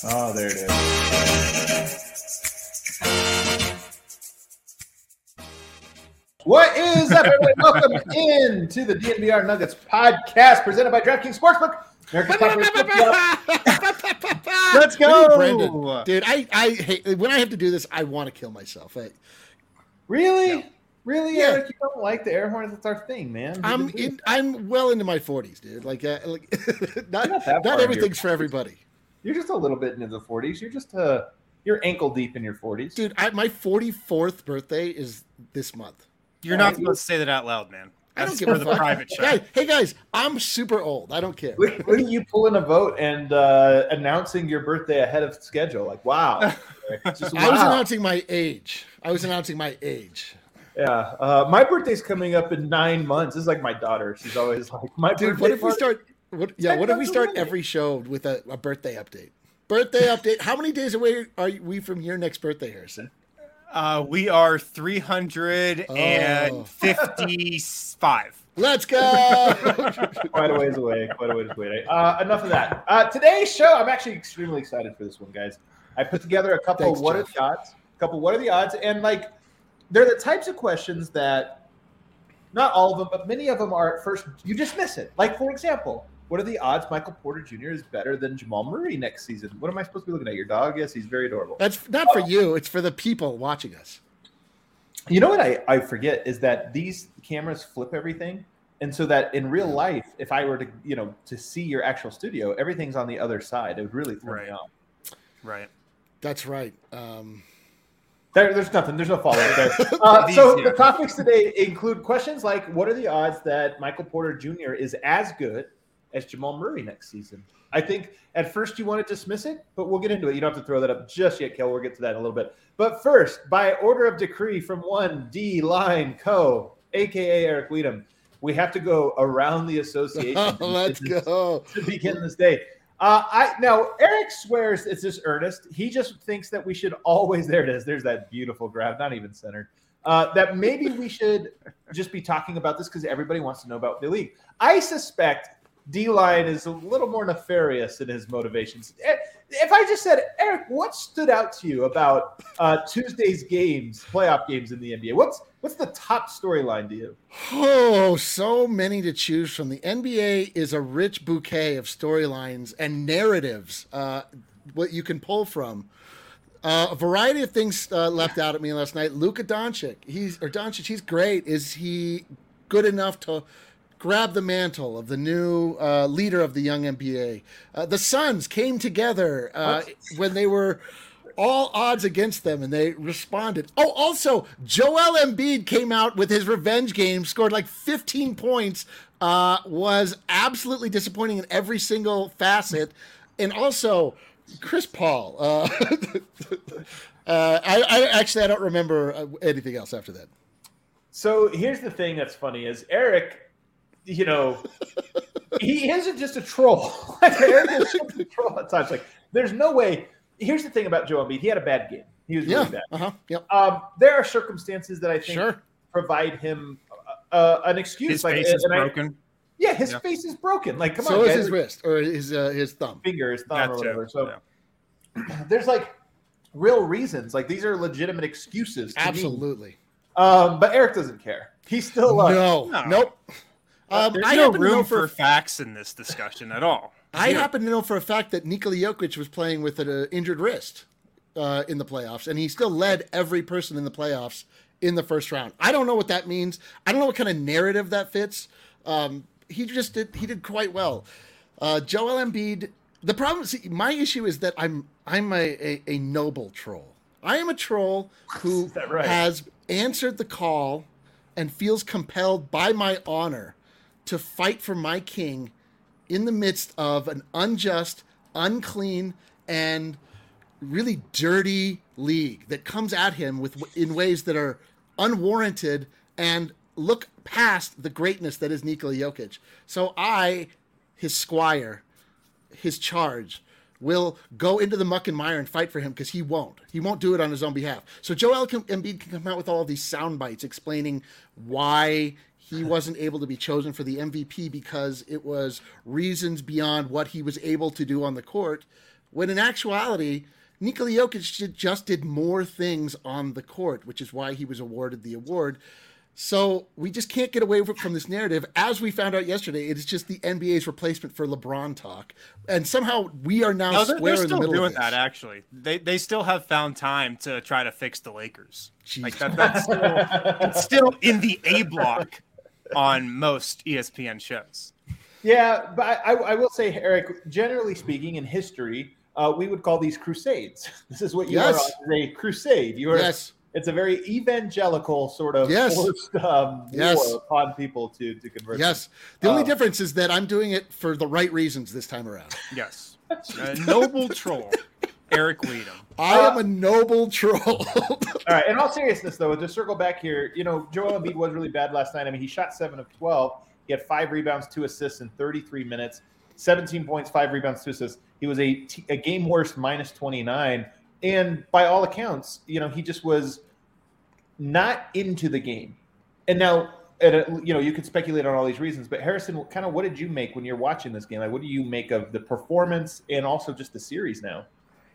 Oh, there it is. What is up, everybody? Welcome in to the DNVR Nuggets podcast presented by DraftKings Sportsbook. Let's go, Brandon. Dude, I hate when I have to do this. I want to kill myself. Really? No. Really, Yeah. Eric? You don't like the air horns? That's our thing, man. I'm well into my 40s, dude. Not everything's for everybody. You're just a little bit into the 40s. You're just you're ankle deep in your 40s, dude. My 44th birthday is this month. You're not supposed to say that out loud, man. That's for the private chat. Hey guys, I'm super old. I don't care. Look at you pulling a vote and announcing your birthday ahead of schedule. Like, wow. Just, wow. I was announcing my age. Yeah. My birthday's coming up in 9 months. This is like my daughter. She's always like, my dude, birthday. What if we start? What if we start every show with a birthday update? Birthday update. How many days away are we from your next birthday, Harrison? We are 355. Let's go. Quite a ways away. Enough of that. Today's show, I'm actually extremely excited for this one, guys. I put together a couple what are the odds, and like they're the types of questions that not all of them, but many of them are at first you dismiss it. Like, for example, what are the odds Michael Porter Jr. is better than Jamal Murray next season? What am I supposed to be looking at? Your dog? Yes, he's very adorable. That's not for you. It's for the people watching us. You know what I forget is that these cameras flip everything. And so that in real life, if I were to, to see your actual studio, everything's on the other side. It would really throw me off. Right. That's right. There's nothing. There's no follow-up there. The topics today include questions like, what are the odds that Michael Porter Jr. is as good as Jamal Murray next season? I think at first you want to dismiss it, but we'll get into it. You don't have to throw that up just yet, Kel. We'll get to that in a little bit. But first, by order of decree from one D-Line Co., a.k.a. Eric Weedham, we have to go around the association. Let's go. To begin this day. Now, Eric swears it's just earnest. He just thinks that we should always, there it is. There's that beautiful graph, not even centered. That maybe we should just be talking about this because everybody wants to know about the league. I suspect D-Line is a little more nefarious in his motivations. If I just said, Eric, what stood out to you about Tuesday's games, playoff games in the NBA? What's the top storyline to you? Oh, so many to choose from. The NBA is a rich bouquet of storylines and narratives, what you can pull from. A variety of things leapt out at me last night. Luka Doncic, he's great. Is he good enough to grab the mantle of the new leader of the young NBA? The Suns came together when they were all odds against them, and they responded. Oh, also, Joel Embiid came out with his revenge game, scored like 15 points, was absolutely disappointing in every single facet, and also Chris Paul. I don't remember anything else after that. So here's the thing that's funny is Eric, he isn't just a troll. Eric is just a troll at times. Like, there's no way. Here's the thing about Joel Embiid. He had a bad game. He was really bad. Yep. There are circumstances that I think provide him an excuse. His face is broken. His face is broken. Like, come on, so is guys. his wrist or his thumb. His thumb or whatever. So there's like real reasons. Like, these are legitimate excuses. Absolutely. Me. But Eric doesn't care. He's still nope. There's no room for facts in this discussion at all. I happen to know for a fact that Nikola Jokic was playing with an injured wrist in the playoffs, and he still led every person in the playoffs in the first round. I don't know what that means. I don't know what kind of narrative that fits. He did quite well. Joel Embiid. The problem, my issue is that I'm a noble troll. I am a troll who has answered the call and feels compelled by my honor to fight for my king in the midst of an unjust, unclean, and really dirty league that comes at him in ways that are unwarranted and look past the greatness that is Nikola Jokic. So I, his squire, his charge, will go into the muck and mire and fight for him because he won't. He won't do it on his own behalf. So Joel Embiid can come out with all of these sound bites explaining why he wasn't able to be chosen for the MVP because it was reasons beyond what he was able to do on the court, when in actuality, Nikola Jokic just did more things on the court, which is why he was awarded the award. So we just can't get away from this narrative. As we found out yesterday, it is just the NBA's replacement for LeBron talk, and somehow we are now square in the middle doing of this. that. Actually, they still have found time to try to fix the Lakers. Jeez. Like that's still, it's still in the A block on most ESPN shows. Yeah, but I will say, Eric, generally speaking, in history, we would call these crusades. This is what you are on, a crusade. You are. Yes. It's a very evangelical sort of forced war upon people to convert. Yes. The only difference is that I'm doing it for the right reasons this time around. Yes. A noble troll, Eric Weedham. I am a noble troll. All right. In all seriousness, though, to circle back here, Joel Embiid was really bad last night. I mean, he shot 7 of 12. He had 5 rebounds, 2 assists in 33 minutes, 17 points, 5 rebounds, 2 assists. He was a game worst minus 29. And by all accounts, he just was not into the game. And now, you could speculate on all these reasons, but Harrison, kind of what did you make when you're watching this game? Like, what do you make of the performance and also just the series now?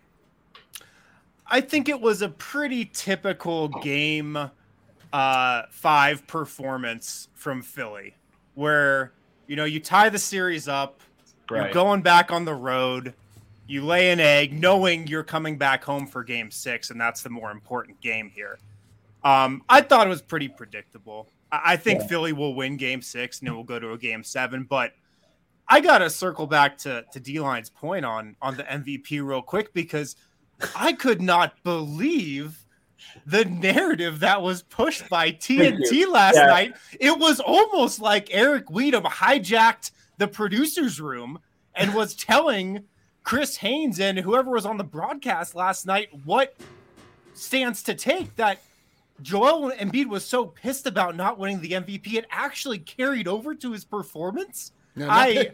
I think it was a pretty typical game 5 performance from Philly, where, you tie the series up, you're going back on the road, you lay an egg knowing you're coming back home for game 6, and that's the more important game here. I thought it was pretty predictable. I think Philly will win game 6 and it will go to a game 7, but I got to circle back to D-Line's point on the MVP real quick, because I could not believe the narrative that was pushed by TNT last night. It was almost like Eric Weedham hijacked the producer's room and was telling Chris Haynes and whoever was on the broadcast last night what stance to take, that Joel Embiid was so pissed about not winning the MVP, it actually carried over to his performance. No, I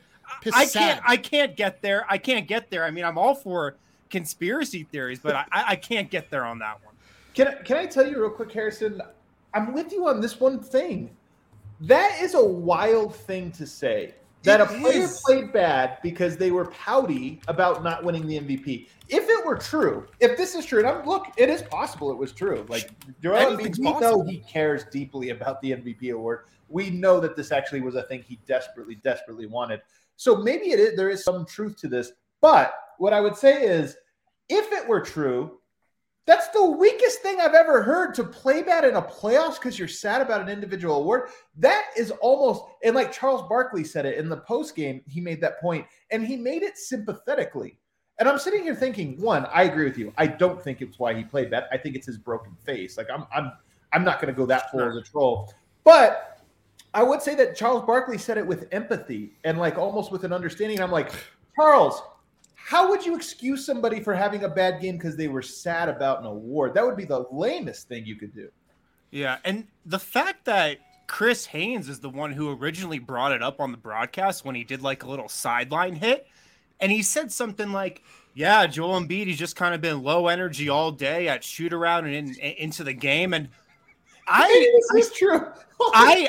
can't get there. I mean, I'm all for conspiracy theories, but I can't get there on that one. Can I tell you real quick, Harrison? I'm with you on this one thing. That is a wild thing to say. That a player played bad because they were pouty about not winning the MVP. If it were true, if this is true, and look, it is possible it was true. Like, Joel Embiid, we know he cares deeply about the MVP award. We know that this actually was a thing he desperately, desperately wanted. So maybe there is some truth to this. But what I would say is, if it were true, that's the weakest thing I've ever heard, to play bad in a playoffs because you're sad about an individual award. That is almost, and like Charles Barkley said it in the post game, he made that point, and he made it sympathetically. And I'm sitting here thinking, one, I agree with you. I don't think it's why he played bad. I think it's his broken face. Like I'm not going to go that far as a troll, but I would say that Charles Barkley said it with empathy and like almost with an understanding. I'm like, Charles, how would you excuse somebody for having a bad game because they were sad about an award? That would be the lamest thing you could do. Yeah, and the fact that Chris Haynes is the one who originally brought it up on the broadcast when he did like a little sideline hit, and he said something like, yeah, Joel Embiid, he's just kind of been low energy all day at shoot around and into the game. And this is true. I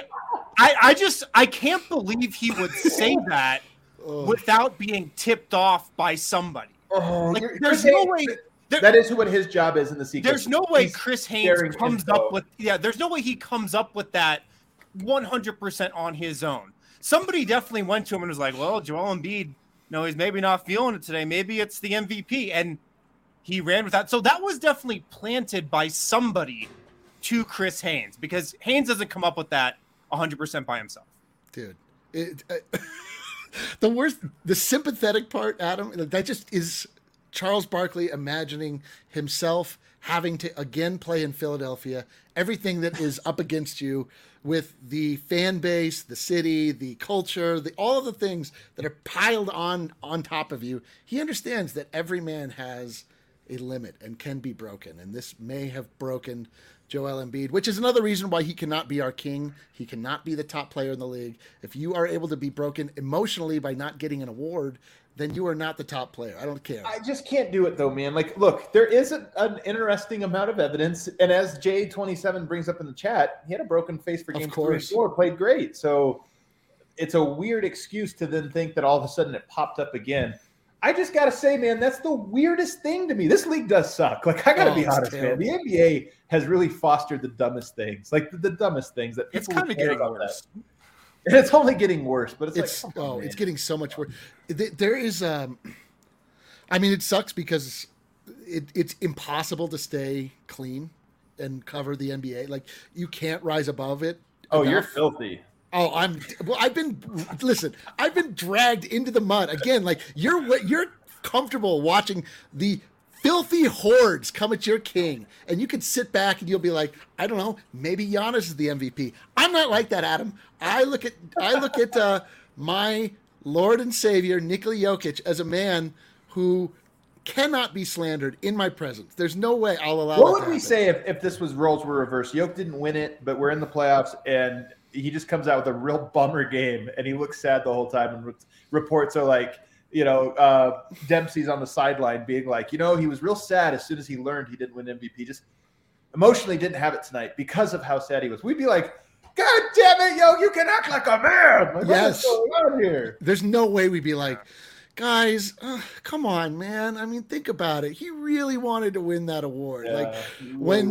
can't believe he would say that without being tipped off by somebody. There's no way that is what his job is in the sequence. There's no way Chris Haynes comes up with there's no way he comes up with that 100% on his own. Somebody definitely went to him and was like, well, Joel Embiid, he's maybe not feeling it today. Maybe it's the MVP. And he ran with that. So that was definitely planted by somebody to Chris Haynes, because Haynes doesn't come up with that 100% by himself. Dude, the sympathetic part, Adam, that just is Charles Barkley imagining himself having to again play in Philadelphia, everything that is up against you with the fan base, the city, the culture, all of the things that are piled on top of you. He understands that every man has a limit and can be broken. And this may have broken Joel Embiid, which is another reason why he cannot be our king. He cannot be the top player in the league. If you are able to be broken emotionally by not getting an award, then you are not the top player. I don't care. I just can't do it though, man. Like, look, there is an interesting amount of evidence, and as J27 brings up in the chat, he had a broken face for game 3 and 4, played great. So it's a weird excuse to then think that all of a sudden it popped up again. I just got to say, man, that's the weirdest thing to me. This league does suck. Like, I got to be honest, terrible. Man. The NBA has really fostered the dumbest things, like the dumbest things that people kind of getting worse. That. And it's only getting worse, but it's it's getting so much worse. There is, I mean, it sucks because it's impossible to stay clean and cover the NBA. Like, you can't rise above it. Oh, you're filthy. Oh, I've been dragged into the mud again. Like, you're comfortable watching the filthy hordes come at your king, and you can sit back and you'll be like, I don't know, maybe Giannis is the MVP. I'm not like that, Adam. I look at my Lord and Savior Nikola Jokic as a man who cannot be slandered in my presence. There's no way I'll allow. What would we say if this was roles were reversed? Jokic didn't win it, but we're in the playoffs, and he just comes out with a real bummer game, and he looks sad the whole time, and reports are like, Dempsey's on the sideline being like, he was real sad as soon as he learned he didn't win MVP. Just emotionally didn't have it tonight because of how sad he was. We'd be like, God damn it, you can act like a man. Like, yes. What's going on here? There's no way we'd be like, guys, come on, man. I mean, think about it. He really wanted to win that award. Yeah, like when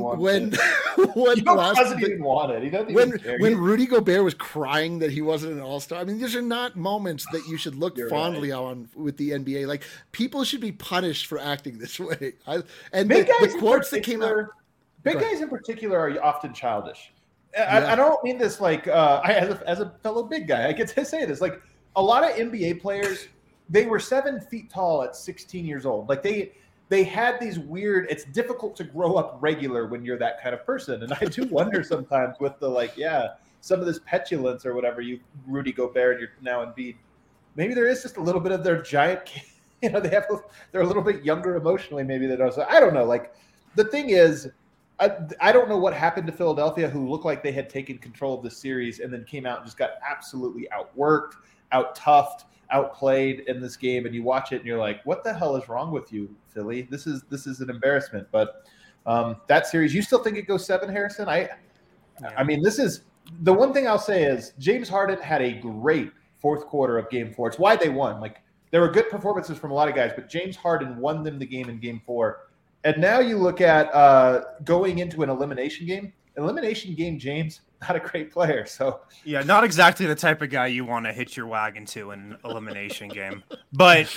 doesn't even want it. He doesn't when even care. When Rudy Gobert was crying that he wasn't an all-star. I mean, these are not moments that you should look fondly on with the NBA. Like, people should be punished for acting this way. The quotes that came out. Big guys in particular are often childish. I don't mean this like as a fellow big guy. I get to say this. Like, a lot of NBA players, they were 7 feet tall at 16 years old. Like, they had these weird, it's difficult to grow up regular when you're that kind of person. And I do wonder sometimes with the, some of this petulance or whatever, Rudy Gobert and you're now Embiid, maybe there is just a little bit of their giant, they're a little bit younger emotionally maybe than us. I don't know. Like, the thing is, I don't know what happened to Philadelphia, who looked like they had taken control of the series and then came out and just got absolutely outworked, out-toughed, outplayed in this game, and you watch it and you're like, what the hell is wrong with you, Philly? This is an embarrassment. But that series, you still think it goes 7, Harrison? I mean, this is the one thing I'll say is James Harden had a great fourth quarter of game 4. It's why they won. Like, there were good performances from a lot of guys, but James Harden won them the game in game 4. And now you look at going into an elimination game. James, not a great player. So yeah, not exactly the type of guy you want to hitch your wagon to in an elimination game. But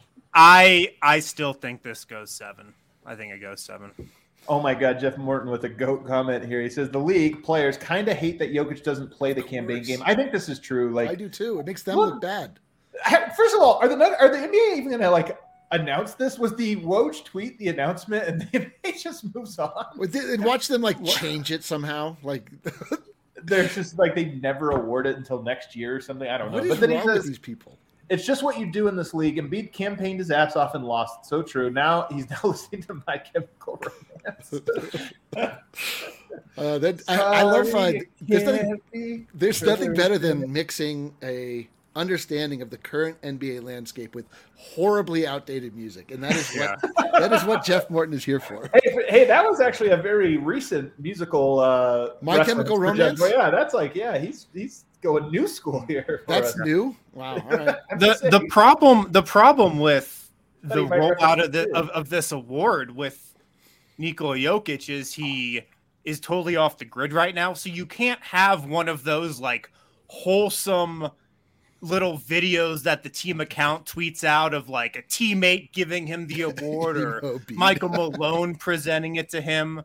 I still think this goes 7. I think it goes 7. Oh my God, Jeff Morton with a GOAT comment here. He says the league players kind of hate that Jokic doesn't play the campaign game. I think this is true. Like, I do too. It makes them look bad. First of all, are the NBA even going to announce this? Was the Woj tweet the announcement and then it just moves on? And watch them change it somehow. Like, there's just they never award it until next year or something. I don't know. What is wrong with these people? It's just what you do in this league. Embiid campaigned his ass off and lost. So true. Now he's listening to My Chemical Romance. I love there's nothing better than mixing a understanding of the current NBA landscape with horribly outdated music, and that is what Jeff Morton is here for. Hey, that was actually a very recent musical. My Chemical Romance. Yeah, that's he's going new school here. That's new. Wow. All right. The problem with the rollout of this award with Nikola Jokic is he is totally off the grid right now, so you can't have one of those wholesome little videos that the team account tweets out of a teammate giving him the award or Michael Malone presenting it to him.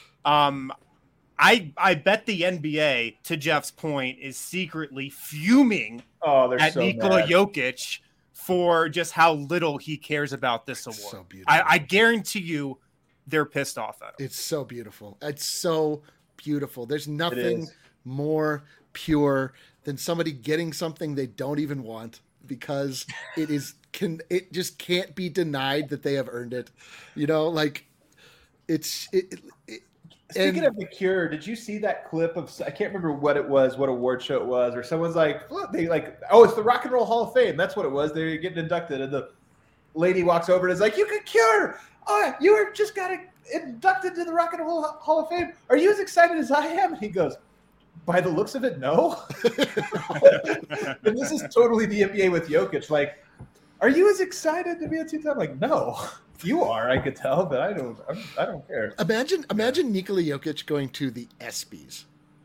I bet the NBA, to Jeff's point, is secretly fuming at Nikola Jokic for just how little he cares about this award. So beautiful. I guarantee you they're pissed off at him. It's so beautiful. It's so beautiful. There's nothing more pure than somebody getting something they don't even want because it just can't be denied that they have earned it. Speaking of The Cure, did you see that clip of? I can't remember what it was, what award show it was, or someone's like, look, it's the Rock and Roll Hall of Fame. That's what it was. They're getting inducted, and the lady walks over and is like, "You can Cure. Oh, you just got inducted to the Rock and Roll Hall of Fame. Are you as excited as I am?" And he goes, "By the looks of it, no." And this is totally the NBA with Jokic. Like, are you as excited to be a two-time? Like, no. You are, I could tell, but I don't care. Imagine Nikola Jokic going to the ESPYs.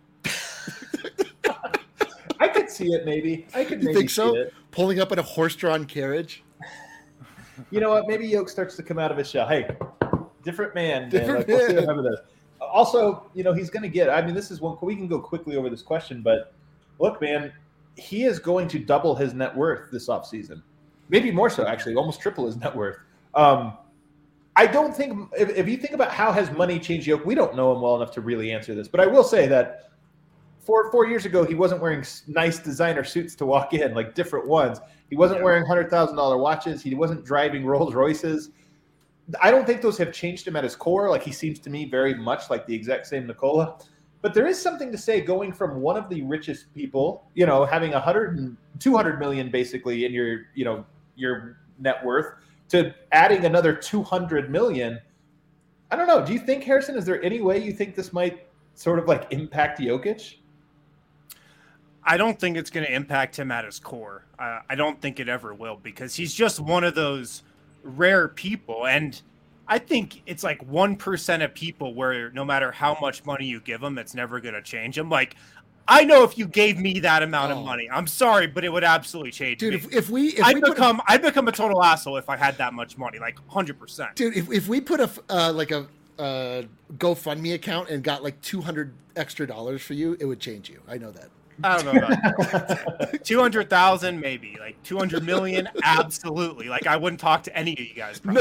I could see it, maybe. I could maybe think so? see it. Pulling up in a horse-drawn carriage. You know what? Maybe Yoke starts to come out of his shell. Hey, different man. Different We'll see man. what happens. Also, he's going to get. I mean, this is one. We can go quickly over this question, but look, man, he is going to double his net worth this offseason. Maybe more so, actually, almost triple his net worth. I don't think if you think about how has money changed Yoke, we don't know him well enough to really answer this. But I will say that 4 years ago, he wasn't wearing nice designer suits to walk in, like different ones. He wasn't wearing $100,000 watches. He wasn't driving Rolls Royces. I don't think those have changed him at his core. Like, he seems to me very much like the exact same Nikola. But there is something to say going from one of the richest people, having 200 million basically in your net worth, to adding another 200 million. I don't know. Do you think, Harrison, is there any way you think this might sort of like impact Jokic? I don't think it's going to impact him at his core. I don't think it ever will, because he's just one of those rare people. And I think it's like 1% of people where no matter how much money you give them, it's never going to change them. Like, I know if you gave me that amount of money, I'm sorry, but it would absolutely change me. Dude, I'd become a total asshole if I had that much money, like 100%. Dude, if we put a GoFundMe account and got like $200 extra for you, it would change you. I know that. I don't know about that. 200,000, maybe. Like 200 million, absolutely. Like, I wouldn't talk to any of you guys. No.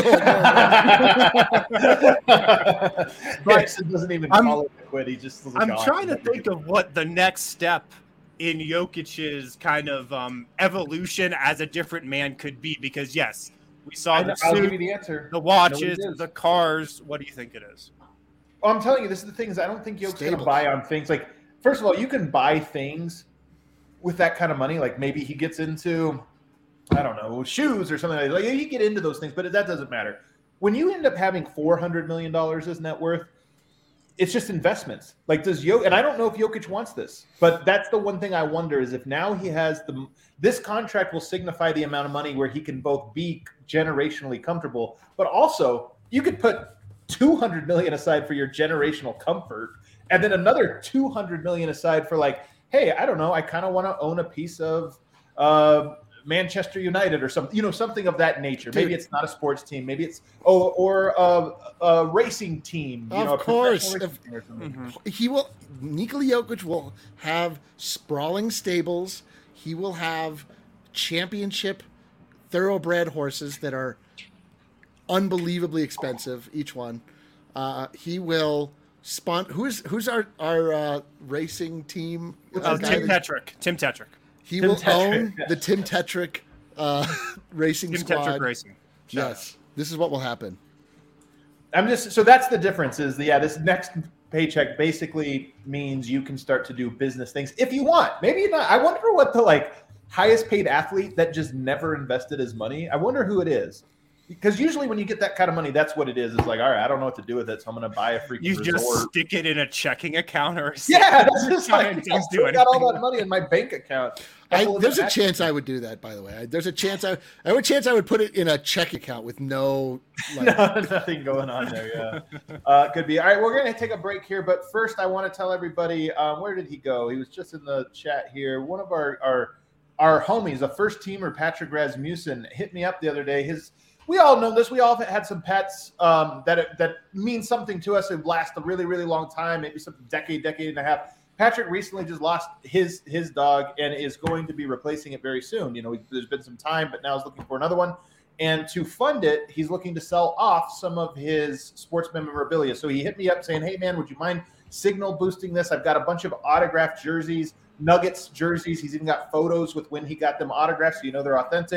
Harrison doesn't even call it quit. He just. I'm trying to think of what the next step in Jokic's kind of evolution as a different man could be. Because yes, we saw the I'll suit, give you the answer. the watches, the cars. What do you think it is? Well, I'm telling you, this is the thing. Is I don't think Jokic's going to buy on things like. First of all, you can buy things with that kind of money. Like, maybe he gets into, I don't know, shoes or something like that. Like, you get into those things, but that doesn't matter. When you end up having $400 million as net worth, it's just investments. Like, and I don't know if Jokic wants this, but that's the one thing I wonder is if now he has this contract will signify the amount of money where he can both be generationally comfortable, but also you could put $200 million aside for your generational comfort. And then another 200 million aside for like, hey, I don't know, I kind of want to own a piece of Manchester United or something, something of that nature. Dude. Maybe it's not a sports team, maybe it's or a racing team. Of course, Nikola Jokic will have sprawling stables. He will have championship thoroughbred horses that are unbelievably expensive, each one. He will. Who's our racing team? Tim Tetrick. Tim Tetrick. He will own the Tim Tetrick racing squad. Tetrick Racing. Yes, this is what will happen. So that's the difference. This next paycheck basically means you can start to do business things if you want. Maybe not. I wonder what the highest paid athlete that just never invested his money. I wonder who it is. Because usually when you get that kind of money, that's what it is. It's like, all right, I don't know what to do with it, so I'm going to buy a freaking resort. You just stick it in a checking account or something. Yeah, that's just like, I got all that money in my bank account. There's a chance I would do that, by the way. There's a chance I would put it in a check account with no nothing going on there. Yeah, could be. All right, we're going to take a break here, but first I want to tell everybody where did he go? He was just in the chat here. One of our homies, a first teamer, Patrick Rasmussen, hit me up the other day. We all know this. We all have had some pets that mean something to us and last a really, really long time, maybe some decade and a half. Patrick recently just lost his dog and is going to be replacing it very soon. There's been some time, but now he's looking for another one. And to fund it, he's looking to sell off some of his sports memorabilia. So he hit me up saying, hey, man, would you mind signal boosting this? I've got a bunch of autographed jerseys, Nuggets jerseys. He's even got photos with when he got them autographed, so they're authentic.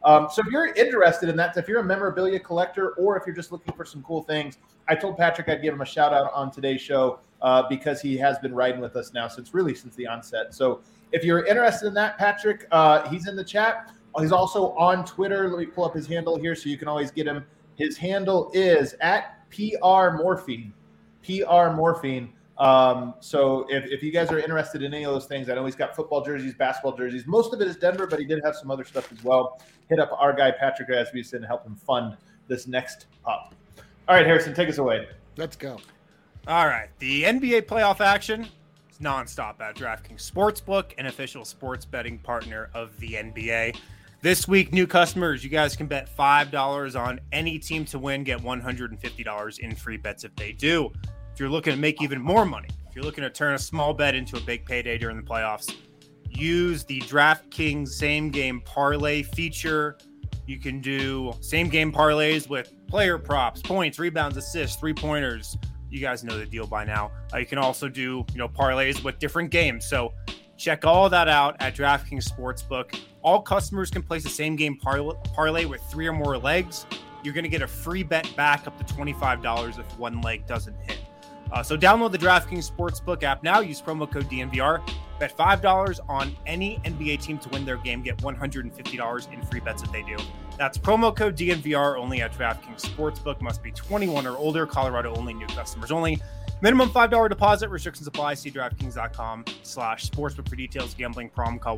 So if you're interested in that, if you're a memorabilia collector or if you're just looking for some cool things, I told Patrick I'd give him a shout out on today's show because he has been riding with us now since the onset. So if you're interested in that, Patrick, he's in the chat. He's also on Twitter. Let me pull up his handle here so you can always get him. His handle is at PR Morphine. PR Morphine. So if you guys are interested in any of those things, I know he's got football jerseys, basketball jerseys. Most of it is Denver, but he did have some other stuff as well. Hit up our guy, Patrick Rasmussen, and help him fund this next pop. All right, Harrison, take us away. Let's go. All right. The NBA playoff action is nonstop at DraftKings Sportsbook, an official sports betting partner of the NBA. This week, new customers, you guys can bet $5 on any team to win, get $150 in free bets if they do. If you're looking to make even more money, if you're looking to turn a small bet into a big payday during the playoffs, use the DraftKings same game parlay feature. You can do same game parlays with player props, points, rebounds, assists, 3-pointers. You guys know the deal by now. You can also do, parlays with different games. So check all that out at DraftKings Sportsbook. All customers can place a same game parlay with 3 or more legs. You're going to get a free bet back up to $25 if one leg doesn't hit. So download the DraftKings Sportsbook app now. Use promo code DNVR. Bet $5 on any NBA team to win their game. Get $150 in free bets if they do. That's promo code DNVR only at DraftKings Sportsbook. Must be 21 or older. Colorado only. New customers only. Minimum $5 deposit. Restrictions apply. See DraftKings.com/sportsbook for details. Gambling problem. Call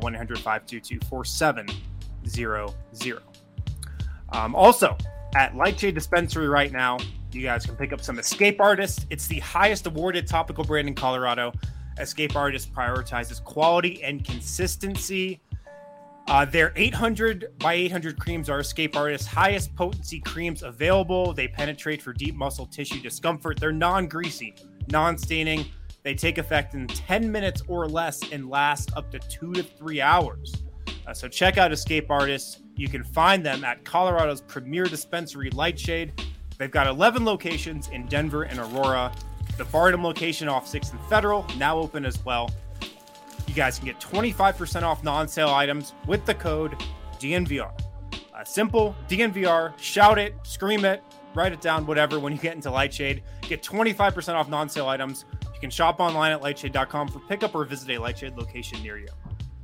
1-800-522-4700. Also, at Lightshade Dispensary right now, you guys can pick up some Escape Artists. It's the highest awarded topical brand in Colorado. Escape Artists prioritizes quality and consistency. Their 800 by 800 creams are Escape Artists' highest potency creams available. They penetrate for deep muscle tissue discomfort. They're non-greasy, non-staining. They take effect in 10 minutes or less and last up to 2 to 3 hours. So check out Escape Artists. You can find them at Colorado's premier dispensary, Lightshade. They've got 11 locations in Denver and Aurora. The Barnum location off 6th and Federal, now open as well. You guys can get 25% off non-sale items with the code DNVR. Simple, DNVR, shout it, scream it, write it down, whatever, when you get into Lightshade. Get 25% off non-sale items. You can shop online at lightshade.com for pickup or visit a Lightshade location near you.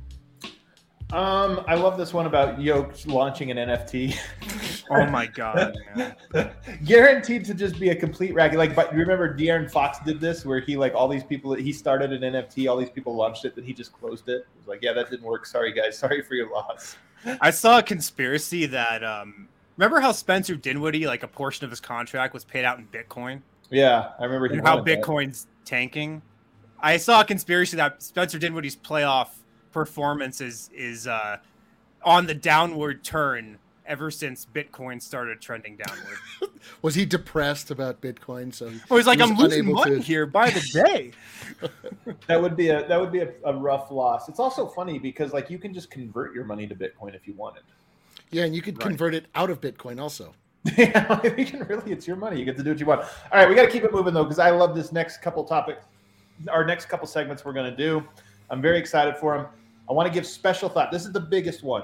I love this one about Yoke launching an NFT. Oh my god, man. Guaranteed to just be a complete racket. But you remember De'Aaron Fox did this where he all these people, he started an NFT, all these people launched it, then he just closed it. It was like, yeah, that didn't work. Sorry guys, sorry for your loss. I saw a conspiracy that remember how Spencer Dinwiddie, a portion of his contract was paid out in Bitcoin? Yeah, I remember how Bitcoin's tanking. I saw a conspiracy that Spencer Dinwiddie's playoff performance is on the downward turn ever since Bitcoin started trending downward. Was he depressed about Bitcoin? So he's like, I'm losing money here by the day. That would be a rough loss. It's also funny because you can just convert your money to Bitcoin if you wanted. Yeah, and you could convert it out of Bitcoin also. Yeah, you can really. It's your money. You get to do what you want. All right, we got to keep it moving though because I love this next couple topics. Our next couple segments we're going to do. I'm very excited for them. I want to give special thought. This is the biggest one.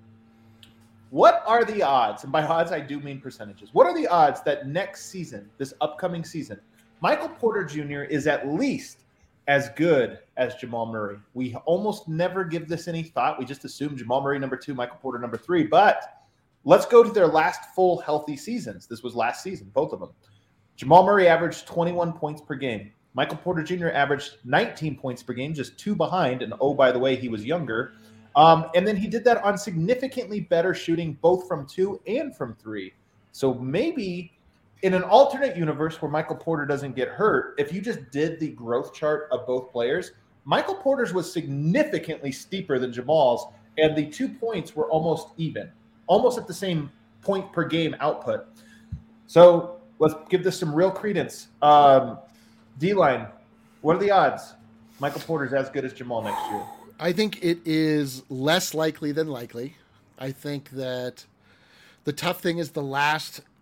What are the odds? And by odds, I do mean percentages. What are the odds that next season, this upcoming season, Michael Porter Jr. is at least as good as Jamal Murray? We almost never give this any thought. We just assume Jamal Murray number 2, Michael Porter number 3. But let's go to their last full healthy seasons. This was last season, both of them. Jamal Murray averaged 21 points per game. Michael Porter Jr. averaged 19 points per game, just 2 behind. And oh, by the way, he was younger. And then he did that on significantly better shooting, both from 2 and from 3. So maybe in an alternate universe where Michael Porter doesn't get hurt, if you just did the growth chart of both players, Michael Porter's was significantly steeper than Jamal's, and the 2 points were almost even, almost at the same point per game output. So let's give this some real credence. D-line, what are the odds Michael Porter's as good as Jamal next year? I think it is less likely than likely. I think that the tough thing is the last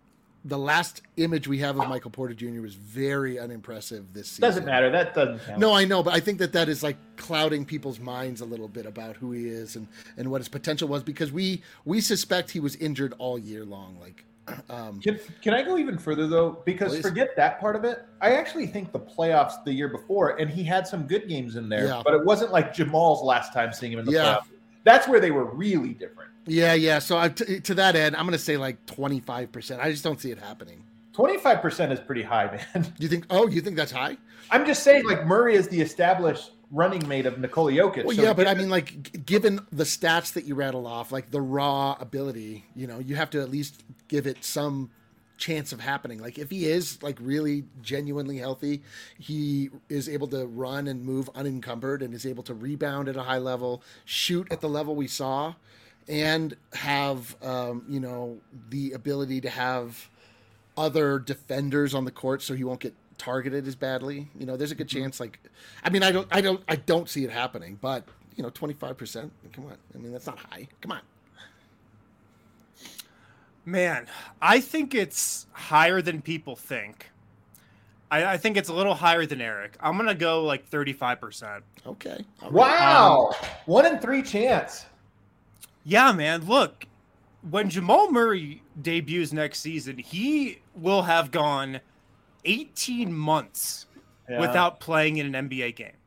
the last image we have of Michael Porter Jr. was very unimpressive this season. Doesn't matter. That doesn't count. No, I know, but I think that is like clouding people's minds a little bit about who he is and what his potential was, because we suspect he was injured all year long. Like, can I go even further though? Because please? Forget that part of it. I actually think the playoffs the year before, and he had some good games in there, but it wasn't like Jamal's last time seeing him in the playoffs. That's where they were really different. Yeah. So to that end, I'm going to say like 25%. I just don't see it happening. 25% is pretty high, man. You think that's high? I'm just saying, like, Murray is the established running mate of Nikola Jokic. Well, yeah, but I mean, like, given the stats that you rattle off, like the raw ability, you have to at least give it some chance of happening. Like, if he is like really genuinely healthy, he is able to run and move unencumbered and is able to rebound at a high level, shoot at the level we saw, and have the ability to have other defenders on the court so he won't get targeted as badly. There's a good chance. Like, I mean, I don't see it happening, but 25%, come on. I mean, that's not high. Come on. Man, I think it's higher than people think. I think it's a little higher than Eric. I'm going to go like 35%. Okay. Right. Wow. 1 in 3 chance. Yeah, man. Look, when Jamal Murray debuts next season, he will have gone 18 months without playing in an NBA game.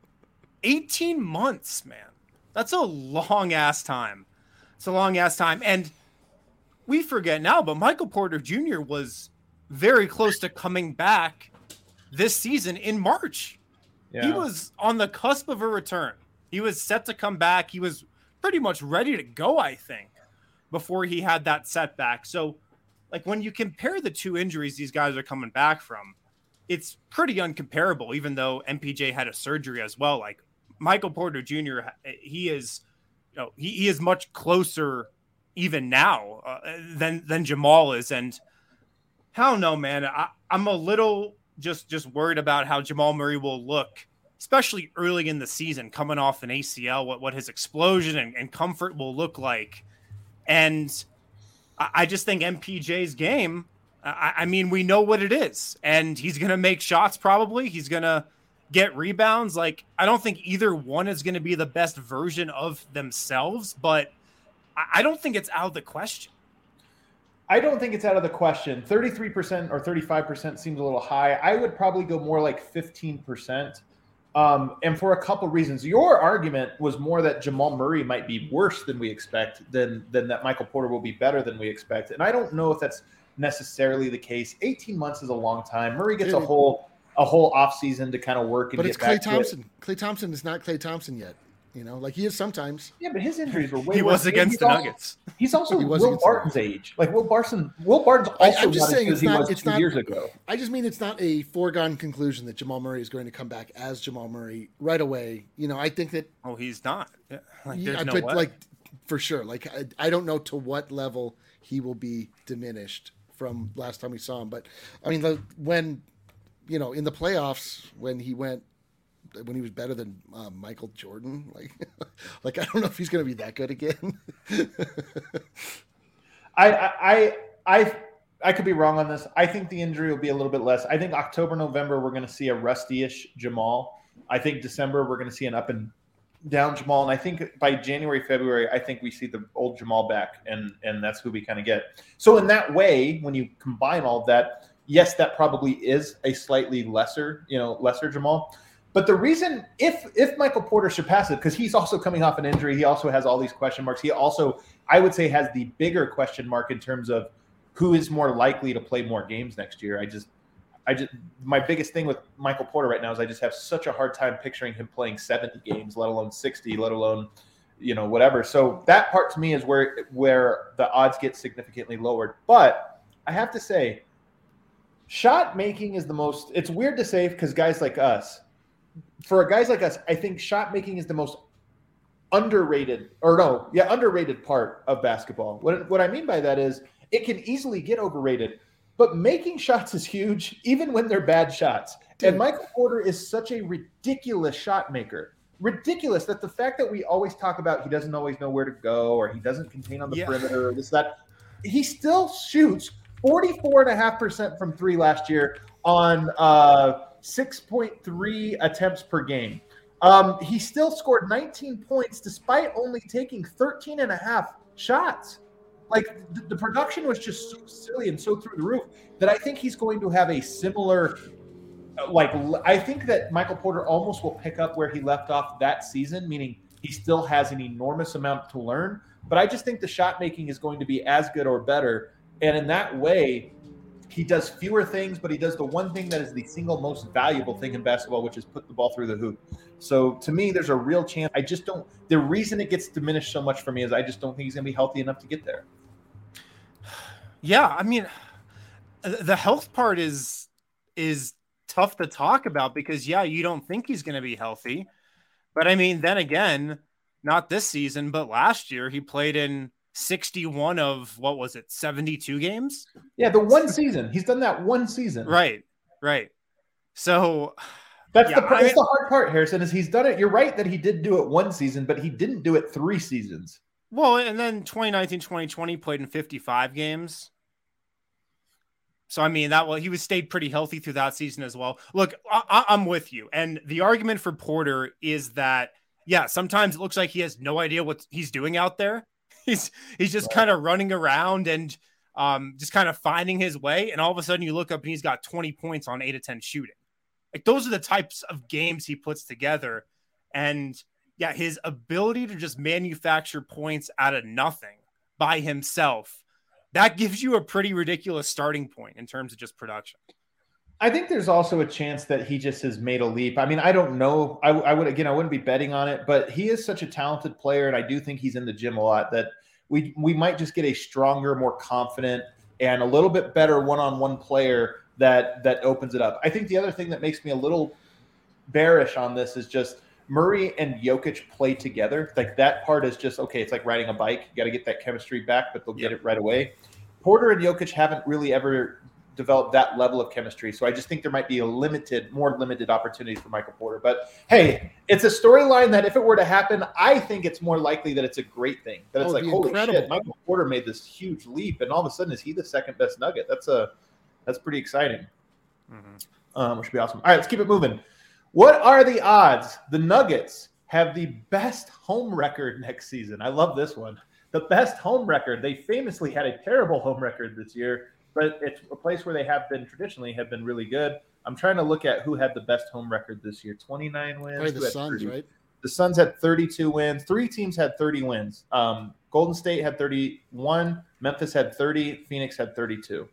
18 months, man. That's a long-ass time. It's a long-ass time. And we forget now, but Michael Porter Jr. was very close to coming back this season in March. Yeah. He was on the cusp of a return. He was set to come back. He was pretty much ready to go, I think, before he had that setback. So, like, when you compare the two injuries these guys are coming back from, it's pretty uncomparable, even though MPJ had a surgery as well. Like, Michael Porter Jr., he is much closer even now than Jamal is. And I don't know, man. I'm a little just worried about how Jamal Murray will look, especially early in the season, coming off an ACL, what his explosion and comfort will look like. And I just think MPJ's game, I mean, we know what it is. And he's going to make shots probably. He's going to get rebounds. Like, I don't think either one is going to be the best version of themselves, but I don't think it's out of the question. I don't think it's out of the question. 33% or 35% seems a little high. I would probably go more like 15%. And for a couple reasons. Your argument was more that Jamal Murray might be worse than we expect, than that Michael Porter will be better than we expect. And I don't know if that's necessarily the case. 18 months is a long time. Murray gets a whole offseason to kind of work and but get back. But it's Klay Thompson. Klay Thompson is not Klay Thompson yet. Like he is sometimes. Yeah, but his injuries were way worse. He was against the Nuggets. He's also Will Barton's age. Like Will Barton's also I'm just saying as he was 2 years ago. I just mean it's not a foregone conclusion that Jamal Murray is going to come back as Jamal Murray right away. I think that. Oh, he's not. Yeah. There's no way. Like for sure. Like I don't know to what level he will be diminished from last time we saw him. But I mean, when in the playoffs when he was better than Michael Jordan, like I don't know if he's going to be that good again. I could be wrong on this. I think the injury will be a little bit less. I think October, November, we're going to see a rusty-ish Jamal. I think December, we're going to see an up and down Jamal. And I think by January, February, I think we see the old Jamal back, and that's who we kind of get. So in that way, when you combine all of that, yes, that probably is a slightly lesser Jamal. But the reason, if Michael Porter surpasses, because he's also coming off an injury, he also has all these question marks. He also, I would say, has the bigger question mark in terms of who is more likely to play more games next year. My biggest thing with Michael Porter right now is I just have such a hard time picturing him playing 70 games, let alone 60, let alone, whatever. So that part to me is where the odds get significantly lowered. But I have to say, shot making is the most, it's weird to say because guys like us, I think shot making is the most underrated part of basketball. What I mean by that is it can easily get overrated, but making shots is huge, even when they're bad shots. Dude. And Michael Porter is such a ridiculous shot maker. Ridiculous that the fact that we always talk about he doesn't always know where to go or he doesn't contain on the perimeter or this, that, he still shoots 44.5% from three last year on 6.3 attempts per game. He still scored 19 points despite only taking 13 and a half shots. Like the production was just so silly and so through the roof that I think he's going to have a similar, I think that Michael Porter almost will pick up where he left off that season, meaning he still has an enormous amount to learn. But I just think the shot making is going to be as good or better. And in that way, he does fewer things, but he does the one thing that is the single most valuable thing in basketball, which is put the ball through the hoop. So to me, there's a real chance. I just don't – the reason it gets diminished so much for me is I just don't think he's going to be healthy enough to get there. Yeah, I mean, the health part is tough to talk about because, yeah, you don't think he's going to be healthy. But, I mean, then again, not this season, but last year he played in 61 of, 72 games? Yeah, the one season. He's done that one season. Right. So that's the hard part, Harrison, is he's done it. You're right that he did do it one season, but he didn't do it 3 seasons. Well, and then 2019, 2020 played in 55 games. So, I mean, he was stayed pretty healthy through that season as well. Look, I'm with you. And the argument for Porter is that, yeah, sometimes it looks like he has no idea what he's doing out there. He's just kind of running around and just kind of finding his way. And all of a sudden you look up and he's got 20 points on 8 of 10 shooting. Like those are the types of games he puts together. And yeah, his ability to just manufacture points out of nothing by himself, that gives you a pretty ridiculous starting point in terms of just production. I think there's also a chance that he just has made a leap. I mean, I don't know. I wouldn't be betting on it, but he is such a talented player, and I do think he's in the gym a lot, that we might just get a stronger, more confident, and a little bit better one-on-one player that opens it up. I think the other thing that makes me a little bearish on this is just Murray and Jokic play together. Like that part is just, okay, it's like riding a bike. You got to get that chemistry back, but they'll get it right away. Porter and Jokic haven't really ever developed that level of chemistry. So I just think there might be more limited opportunities for Michael Porter. But hey, it's a storyline that if it were to happen, I think it's more likely that it's a great thing. That it's holy shit, Michael Porter made this huge leap, and all of a sudden is he the second best Nugget? That's pretty exciting. Which would be awesome. All right, let's keep it moving. What are the odds the Nuggets have the best home record next season? I love this one. The best home record. They famously had a terrible home record this year, but it's a place where they have been really good. I'm trying to look at who had the best home record this year. 29 wins. Probably the Suns, right? The Suns had 32 wins. 3 teams had 30 wins. Golden State had 31. Memphis had 30. Phoenix had 32.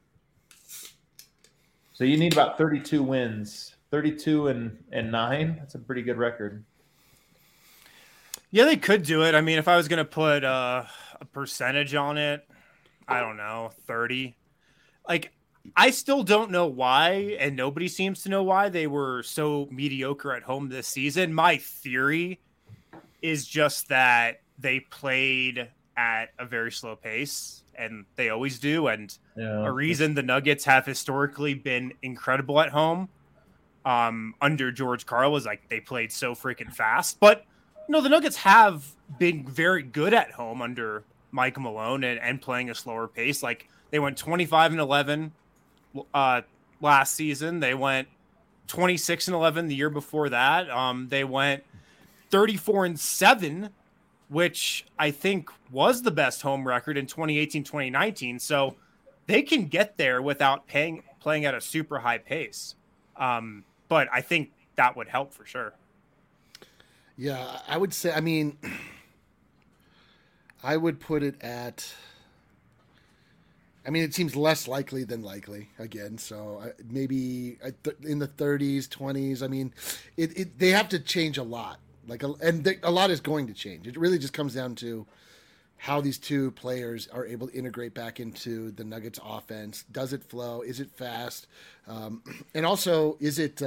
So you need about 32 wins. 32 and 9. That's a pretty good record. Yeah, they could do it. I mean, if I was going to put a percentage on it, I don't know, 30. Like, I still don't know why, and nobody seems to know why they were so mediocre at home this season. My theory is just that they played at a very slow pace, and they always do. And a reason the Nuggets have historically been incredible at home under George Karl was like they played so freaking fast. But, the Nuggets have been very good at home under Mike Malone and playing a slower pace. Like, they went 25-11 last season. They went 26-11 the year before that. They went 34-7, which I think was the best home record in 2018-2019. So they can get there without playing at a super high pace. But I think that would help for sure. Yeah, I would say, I would put it at, it seems less likely than likely again. So maybe in the 30s, 20s. They have to change a lot. A lot is going to change. It really just comes down to how these two players are able to integrate back into the Nuggets offense. Does it flow? Is it fast? And also, is it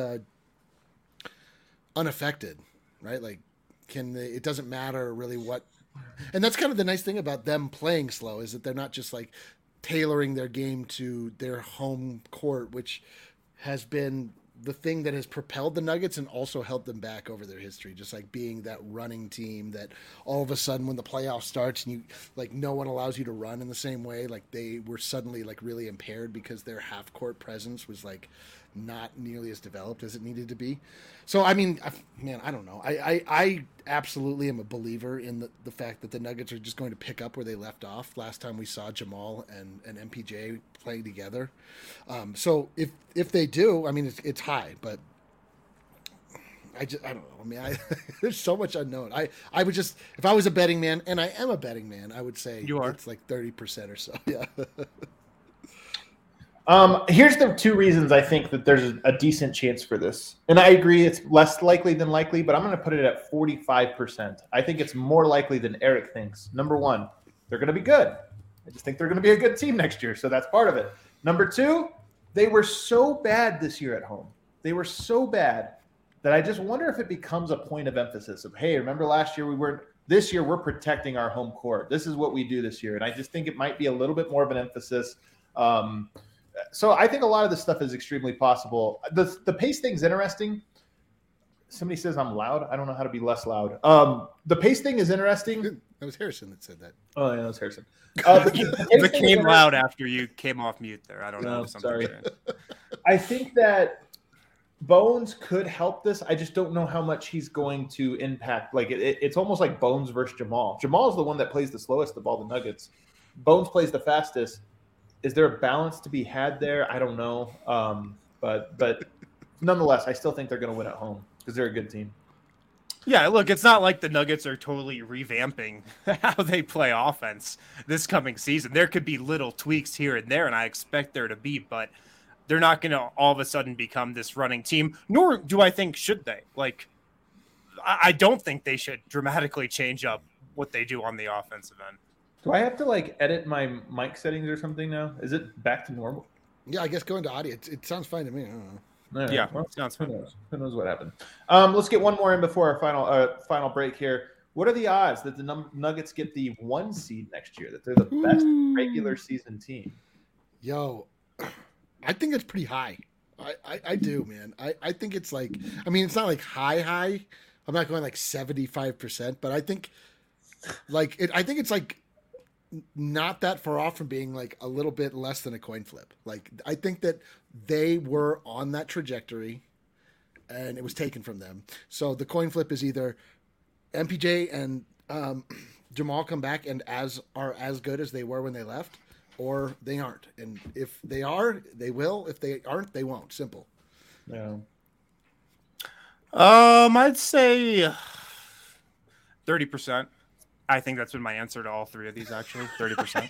unaffected? Right? Like, it doesn't matter really what. And that's kind of the nice thing about them playing slow is that they're not just like tailoring their game to their home court, which has been the thing that has propelled the Nuggets and also held them back over their history. Just like being that running team that all of a sudden when the playoff starts and you like no one allows you to run in the same way, like they were suddenly like really impaired because their half court presence was like not nearly as developed as it needed to be. So, I mean, man, I don't know. I absolutely am a believer in the fact that the Nuggets are just going to pick up where they left off last time we saw Jamal and MPJ playing together. So if they do, I mean, it's high, but I don't know. I mean, there's so much unknown. I would just, if I was a betting man, and I am a betting man, I would say it's like 30% or so. Yeah. Here's the two reasons I think that there's a decent chance for this. And I agree it's less likely than likely, but I'm going to put it at 45%. I think it's more likely than Eric thinks. Number one, they're going to be good. I just think they're going to be a good team next year, so that's part of it. Number two, they were so bad this year at home. They were so bad that I just wonder if it becomes a point of emphasis of, hey, remember last year we weren't – this year we're protecting our home court. This is what we do this year. And I just think it might be a little bit more of an emphasis. So I think a lot of this stuff is extremely possible. The pace thing's interesting. Somebody says I'm loud. I don't know how to be less loud. The pace thing is interesting. That was Harrison that said that. Oh, yeah, that was Harrison. It came loud after you came off mute there. I don't know. Sorry. I think that Bones could help this. I just don't know how much he's going to impact. Like it's almost like Bones versus Jamal. Jamal is the one that plays the slowest of all the Nuggets. Bones plays the fastest. Is there a balance to be had there? I don't know. But nonetheless, I still think they're going to win at home because they're a good team. Yeah, look, it's not like the Nuggets are totally revamping how they play offense this coming season. There could be little tweaks here and there, and I expect there to be, but they're not going to all of a sudden become this running team, nor do I think should they. Like, I don't think they should dramatically change up what they do on the offensive end. Do I have to like edit my mic settings or something now? Is it back to normal? Yeah, I guess going to audio. It sounds fine to me. I don't know. Right, yeah, well, sounds fine. Who knows what happened? Let's get one more in before our final break here. What are the odds that the Nuggets get the 1 seed next year? That they're the best regular season team? Yo, I think it's pretty high. I do, man. I think it's like, I mean, it's not like high. I'm not going like 75%, but I think I think it's like not that far off from being like a little bit less than a coin flip. Like, I think that they were on that trajectory and it was taken from them. So the coin flip is either MPJ and Jamal come back and are as good as they were when they left, or they aren't. And if they are, they will. If they aren't, they won't. Simple. Yeah. I'd say 30%. I think that's been my answer to all three of these, actually. 30%.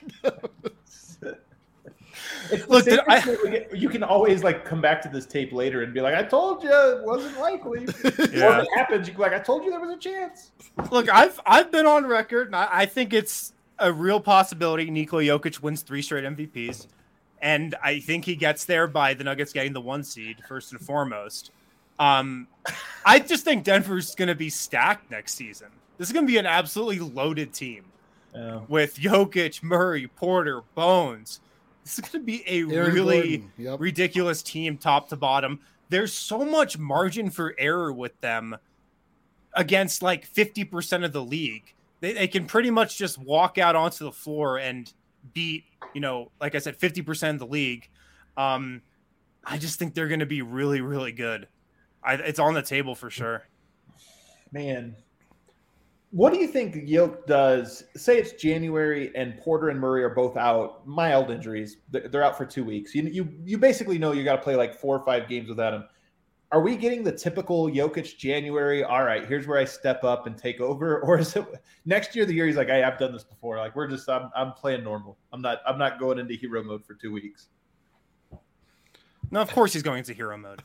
Look, you can always like come back to this tape later and be like, I told you it wasn't likely. Yeah. Or if it happens, you can be like, I told you there was a chance. Look, I've been on record, and I think it's a real possibility Nikola Jokic wins 3 straight MVPs. And I think he gets there by the Nuggets getting the 1 seed, first and foremost. I just think Denver's going to be stacked next season. This is going to be an absolutely loaded team with Jokic, Murray, Porter, Bones. This is going to be a really ridiculous team top to bottom. There's so much margin for error with them against like 50% of the league. They can pretty much just walk out onto the floor and beat, like I said, 50% of the league. I just think they're going to be really, really good. It's on the table for sure. Man. What do you think Yoke does? Say it's January and Porter and Murray are both out, mild injuries. They're out for 2 weeks. You basically know you got to play like 4 or 5 games without him. Are we getting the typical Jokic January? All right, here's where I step up and take over, or is it next year? The year he's like, I've done this before. Like I'm playing normal. I'm not going into hero mode for 2 weeks. No, of course he's going into hero mode.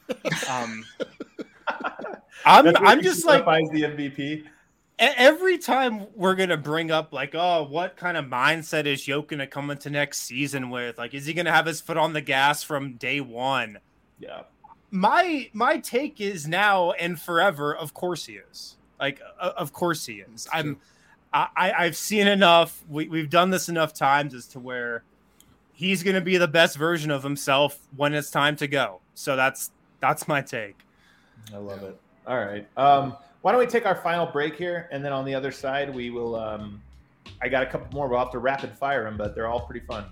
I'm just like the MVP. Every time we're going to bring up like, oh, what kind of mindset is Jokic going to come into next season with? Like, is he going to have his foot on the gas from day one? Yeah. My take is now and forever, of course he is. Like, of course he is. I've seen enough. We've done this enough times as to where he's going to be the best version of himself when it's time to go. So that's That's my take. I love it. All right. Why don't we take our final break here, and then on the other side we will. I got a couple more. We'll have to rapid fire them, but they're all pretty fun.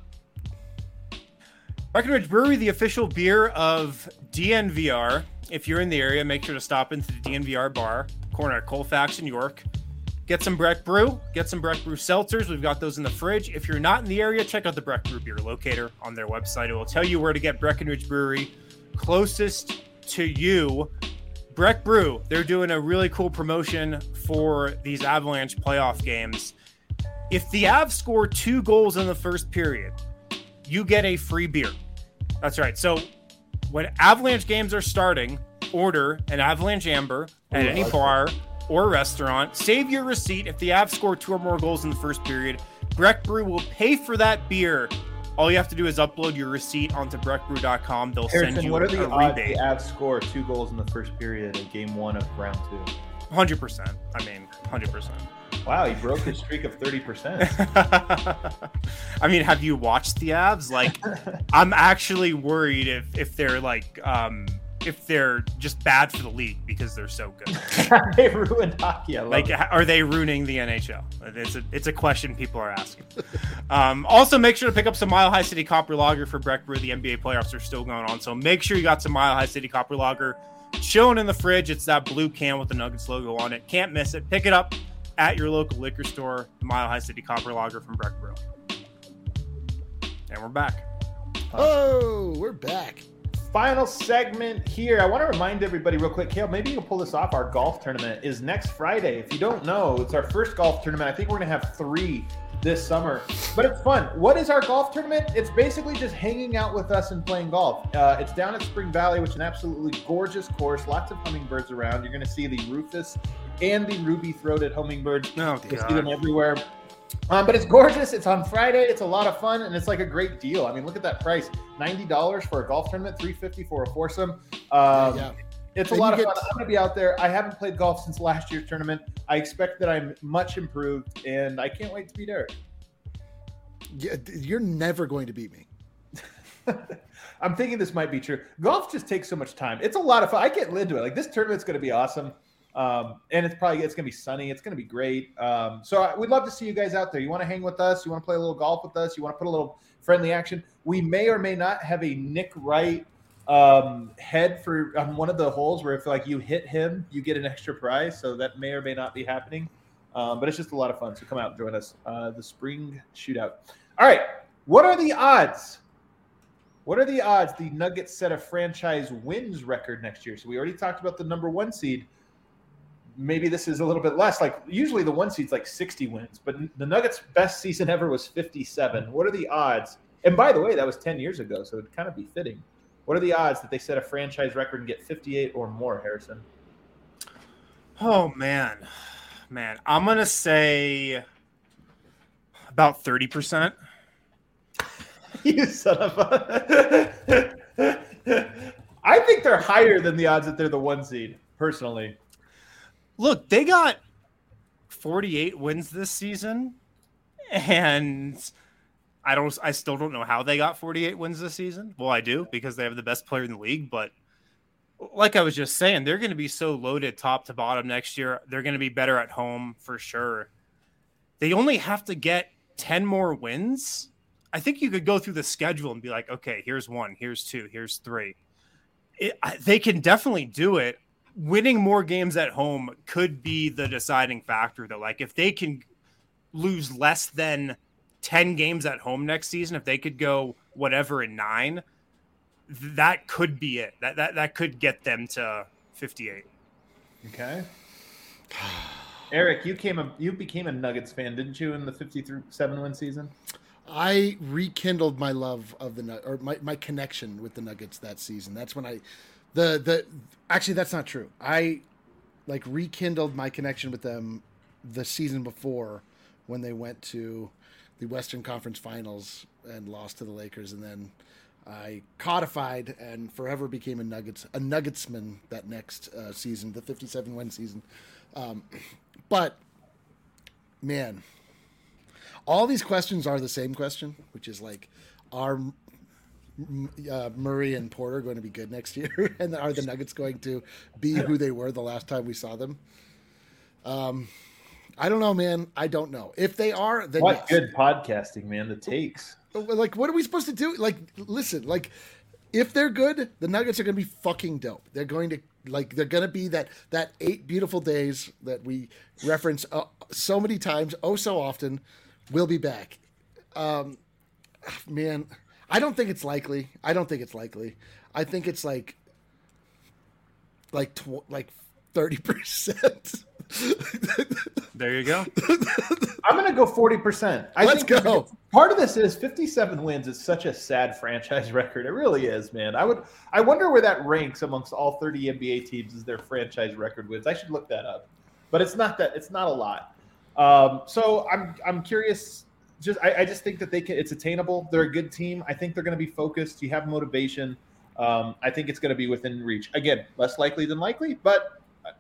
Breckenridge Brewery, the official beer of DNVR. If you're in the area, make sure to stop into the DNVR bar, corner at Colfax in York. Get some Breck Brew. Get some Breck Brew seltzers. We've got those in the fridge. If you're not in the area, check out the Breck Brew beer locator on their website. It will tell you where to get Breckenridge Brewery closest to you. Breck Brew, they're doing a really cool promotion for these Avalanche playoff games. If the Avs score 2 goals in the first period, you get a free beer. That's right. So when Avalanche games are starting, order an Avalanche Amber at any bar or restaurant. Save your receipt. If the Avs score 2 or more goals in the first period, Breck Brew will pay for that beer. All you have to do is upload your receipt onto breckbrew.com. They'll send you what are the a odds rebate. the Avs score 2 goals in the first period in game 1 of round 2? 100%. I mean, 100%. Wow, he broke his streak of 30%. I mean, have you watched the Avs? Like, I'm actually worried if they're like if they're just bad for the league because they're so good. They ruined hockey. I love it. Are they ruining the NHL? It's a question people are asking. Also, make sure to pick up some Mile High City Copper Lager for Breck Brew. The NBA playoffs are still going on, so make sure you got some Mile High City Copper Lager chilling in the fridge. It's that blue can with the Nuggets logo on it. Can't miss it. Pick it up at your local liquor store. The Mile High City Copper Lager from Breck Brew. And we're back. Oh, we're back. Final segment here. I want to remind everybody real quick, Kale, maybe you can pull this off. Our golf tournament is next Friday. If you don't know, it's our first golf tournament. I think we're going to have 3 this summer, but it's fun. What is our golf tournament? It's basically just hanging out with us and playing golf. It's down at Spring Valley, which is an absolutely gorgeous course. Lots of hummingbirds around. You're going to see the Rufus and the ruby-throated hummingbirds. Oh, you see them everywhere. But it's gorgeous. It's on Friday. It's a lot of fun, and it's like a great deal. I mean, look at that price: $90 for a golf tournament, $350 for a foursome. It's a lot of fun. I'm going to be out there. I haven't played golf since last year's tournament. I expect that I'm much improved, and I can't wait to beat Eric. Yeah, you're never going to beat me. I'm thinking this might be true. Golf just takes so much time. It's a lot of fun. I get into it. Like, this tournament's going to be awesome. And it's going to be sunny. It's going to be great. So we'd love to see you guys out there. You want to hang with us? You want to play a little golf with us? You want to put a little friendly action? We may or may not have a Nick Wright head for on one of the holes where if like you hit him, you get an extra prize. So that may or may not be happening. But it's just a lot of fun. So come out and join us. The spring shootout. All right. What are the odds? What are the odds the Nuggets set a franchise wins record next year? So we already talked about the number 1 seed. Maybe this is a little bit less. Like usually the 1 seed's like 60 wins, but the Nuggets' best season ever was 57. What are the odds? And by the way, that was 10 years ago, so it'd kind of be fitting. What are the odds that they set a franchise record and get 58 or more, Harrison? Oh, man. I'm going to say about 30%. You son of a... I think they're higher than the odds that they're the 1 seed, personally. Look, they got 48 wins this season, and I still don't know how they got 48 wins this season. Well, I do, because they have the best player in the league, but like I was just saying, they're going to be so loaded top to bottom next year. They're going to be better at home for sure. They only have to get 10 more wins. I think you could go through the schedule and be like, okay, here's 1, here's 2, here's 3. They can definitely do it. Winning more games at home could be the deciding factor, though. Like, if they can lose less than 10 games at home next season, if they could go whatever in 9, that could be it. That could get them to 58. Okay. Eric, you became a Nuggets fan, didn't you, in the 57-win season? I rekindled my love of my connection with the Nuggets that season. That's when actually, that's not true. I rekindled my connection with them the season before when they went to the Western Conference Finals and lost to the Lakers, and then I codified and forever became a Nuggetsman that next season, the 57-win season. But man, all these questions are the same question, which is like, are Murray and Porter going to be good next year? And are the Nuggets going to be who they were the last time we saw them? I don't know, man. I don't know. If they are, then what good podcasting, man. The takes. Like, what are we supposed to do? Like, listen, like, if they're good, the Nuggets are going to be fucking dope. They're going to be that 8 beautiful days that we reference so many times, so often. Will be back. Man, I don't think it's likely. I think it's like 30%. There you go. I'm going to go 40%. Let's go. Part of this is 57 wins is such a sad franchise record. It really is, man. I wonder where that ranks amongst all 30 NBA teams as their franchise record wins. I should look that up. But it's not a lot. So I'm curious. I just think that it's attainable. They're a good team. I think they're going to be focused. You have motivation. I think it's going to be within reach. Again, less likely than likely, but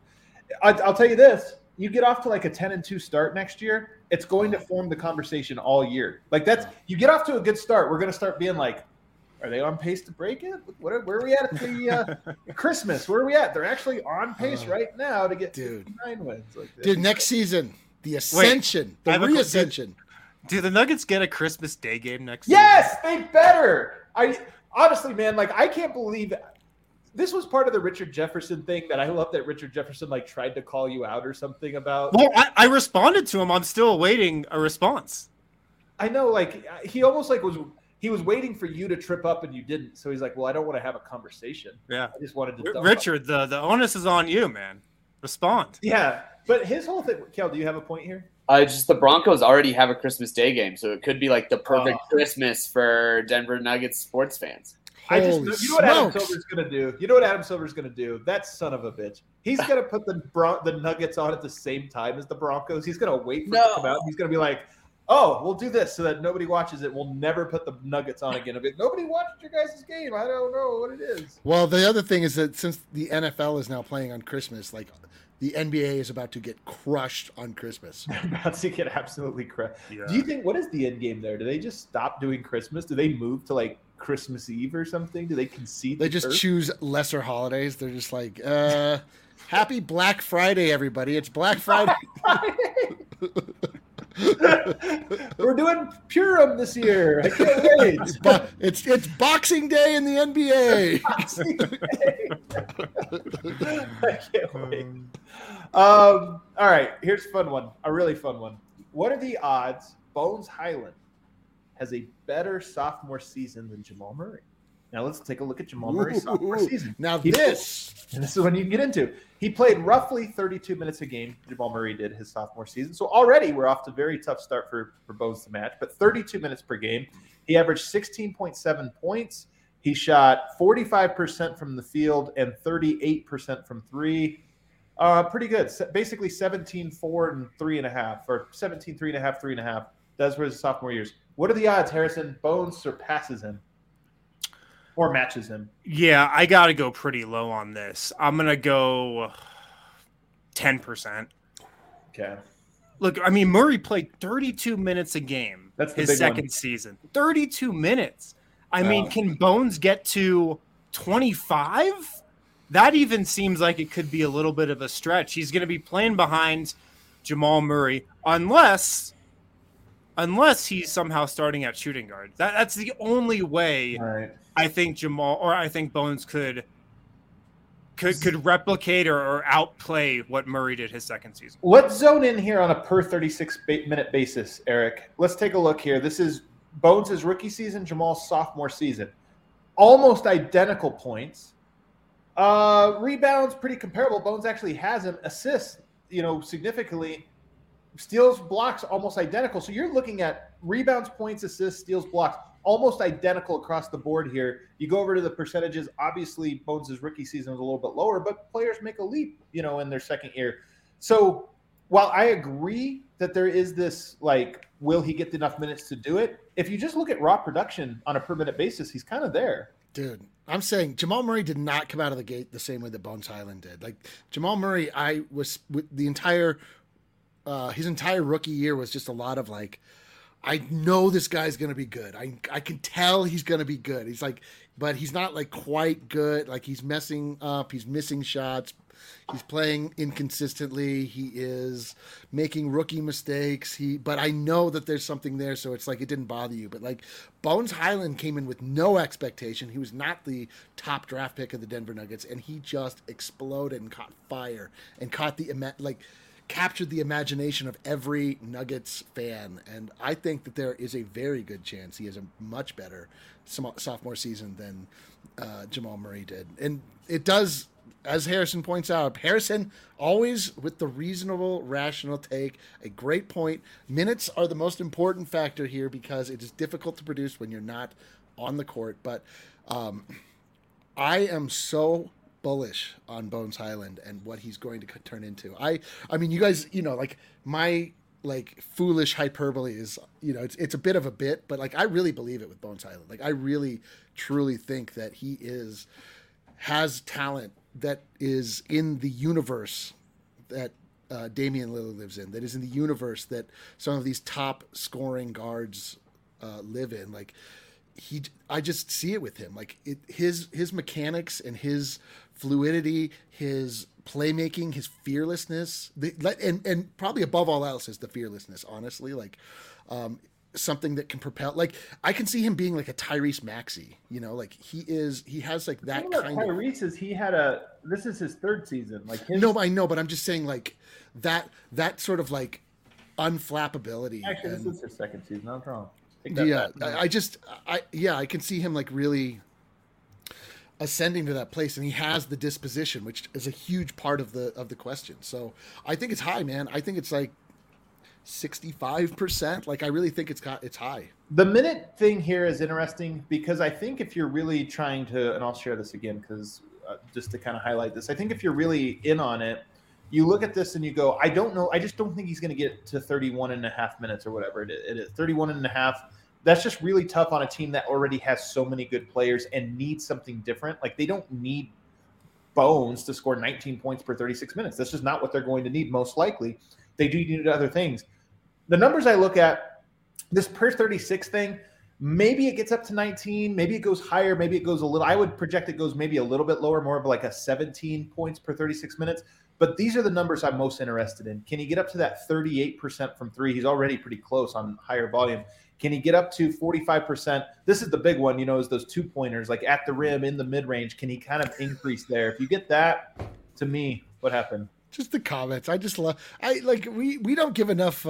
I'll tell you this. You get off to like a 10-2 start next year, it's going to form the conversation all year. Like you get off to a good start, we're going to start being like, are they on pace to break it? Where are we at the Christmas? Where are we at? They're actually on pace right now to get 59 wins. Like this. Dude, next season, the ascension, the reascension. Do the Nuggets get a Christmas Day game next season? Yes, they better. Honestly, man, like I can't believe this was part of the Richard Jefferson thing that I love that Richard Jefferson like tried to call you out or something about. Well, I responded to him. I'm still awaiting a response. I know, like he almost like he was waiting for you to trip up and you didn't. So he's like, well, I don't want to have a conversation. Yeah. I just wanted to Richard, the onus is on you, man. Respond. Yeah. But his whole thing, Kel, do you have a point here? Just the Broncos already have a Christmas Day game, so it could be like the perfect Christmas for Denver Nuggets sports fans. You know what Adam Silver's going to do? You know what Adam Silver's going to do? That son of a bitch. He's going to put the Nuggets on at the same time as the Broncos. He's going to wait for it to come out. He's going to be like, oh, we'll do this so that nobody watches it. We'll never put the Nuggets on again. Nobody watched your guys' game. I don't know what it is. Well, the other thing is that since the NFL is now playing on Christmas, like the NBA is about to get crushed on Christmas. They're about to get absolutely crushed. Yeah. Do you think, what is the end game there? Do they just stop doing Christmas? Do they move to like Christmas Eve or something? Do they concede? They just choose lesser holidays. They're just like, happy Black Friday, everybody. It's Black Friday. We're doing Purim this year. I can't wait. It's Boxing Day in the NBA. Boxing Day. I can't wait. All right, here's a fun one. A really fun one. What are the odds Bones Hyland has a better sophomore season than Jamal Murray? Now let's take a look at Jamal Murray's sophomore season. Now this is when you can get into. He played roughly 32 minutes a game. Jamal Murray did his sophomore season. So already we're off to a very tough start for Bones to match, but 32 minutes per game. He averaged 16.7 points. He shot 45% from the field and 38% from three. Pretty good. Basically 17, 4, and 3.5, or 17, 3.5, 3.5. Those were his sophomore years. What are the odds, Harrison? Bones surpasses him or matches him? Yeah, I got to go pretty low on this. I'm going to go 10%. Okay. Look, I mean, Murray played 32 minutes a game. That's his second season. 32 minutes. I mean, can Bones get to 25? That even seems like it could be a little bit of a stretch. He's going to be playing behind Jamal Murray unless he's somehow starting at shooting guard. That's the only way I think Bones could replicate or outplay what Murray did his second season. Let's zone in here on a per 36-minute basis, Eric. Let's take a look here. This is Bones' rookie season, Jamal's sophomore season. Almost identical points. Rebounds, pretty comparable. Bones actually has him. Assists, significantly. Steals, blocks, almost identical. So you're looking at rebounds, points, assists, steals, blocks, almost identical across the board here. You go over to the percentages. Obviously, Bones' rookie season was a little bit lower, but players make a leap, in their second year. So while I agree that there is this, will he get enough minutes to do it? If you just look at raw production on a per-minute basis, he's kind of there. Dude, I'm saying Jamal Murray did not come out of the gate the same way that Bones Hyland did. Like, Jamal Murray, his entire rookie year was just a lot of I know this guy's going to be good. I can tell he's going to be good. He's like, but he's not like quite good. Like he's messing up. He's missing shots. He's playing inconsistently. He is making rookie mistakes. But I know that there's something there. So it's like, it didn't bother you, but like Bones Hyland came in with no expectation. He was not the top draft pick of the Denver Nuggets. And he just exploded and caught fire and captured the imagination of every Nuggets fan. And I think that there is a very good chance he has a much better sophomore season than Jamal Murray did. And it does, as Harrison points out, Harrison always with the reasonable, rational take, a great point. Minutes are the most important factor here because it is difficult to produce when you're not on the court. But I am so bullish on Bones Hyland and what he's going to turn into. I mean, you guys, like my foolish hyperbole is, it's a bit of a bit, but like I really believe it with Bones Hyland. Like I really truly think that he has talent that is in the universe that Damian Lillard lives in, that is in the universe that some of these top scoring guards live in. Like I just see it with him. Like his mechanics and his fluidity, his playmaking, his fearlessness, and probably above all else is the fearlessness, honestly. Like something that can propel, like I can see him being like a Tyrese Maxey, like he has like that kind of. Tyrese this is his third season. Like no, I know, but I'm just saying like that sort of like unflappability. Actually, this is his second season. I'm wrong. Yeah, I can see him like really ascending to that place, and he has the disposition, which is a huge part of the question. So I think it's high, man. I think it's like 65%. Like I really think it's high. The minute thing here is interesting because I think if you're really trying to, and I'll share this again because just to kind of highlight this, I think if you're really in on it, you look at this and you go, I don't know. I just don't think he's going to get to 31 and a half minutes or whatever it is. 31 and a half. That's just really tough on a team that already has so many good players and needs something different. Like they don't need Bones to score 19 points per 36 minutes. That's just not what they're going to need. Most likely they do need other things. The numbers I look at, this per 36 thing, maybe it gets up to 19, maybe it goes higher, maybe it goes a little. I would project it goes maybe a little bit lower, more of like a 17 points per 36 minutes. But these are the numbers I'm most interested in. Can he get up to that 38% from three? He's already pretty close on higher volume. Can he get up to 45%? This is the big one, is those 2-pointers, like at the rim, in the mid-range. Can he kind of increase there? If you get that, to me, what happened? Just the comments. I just love. We don't give enough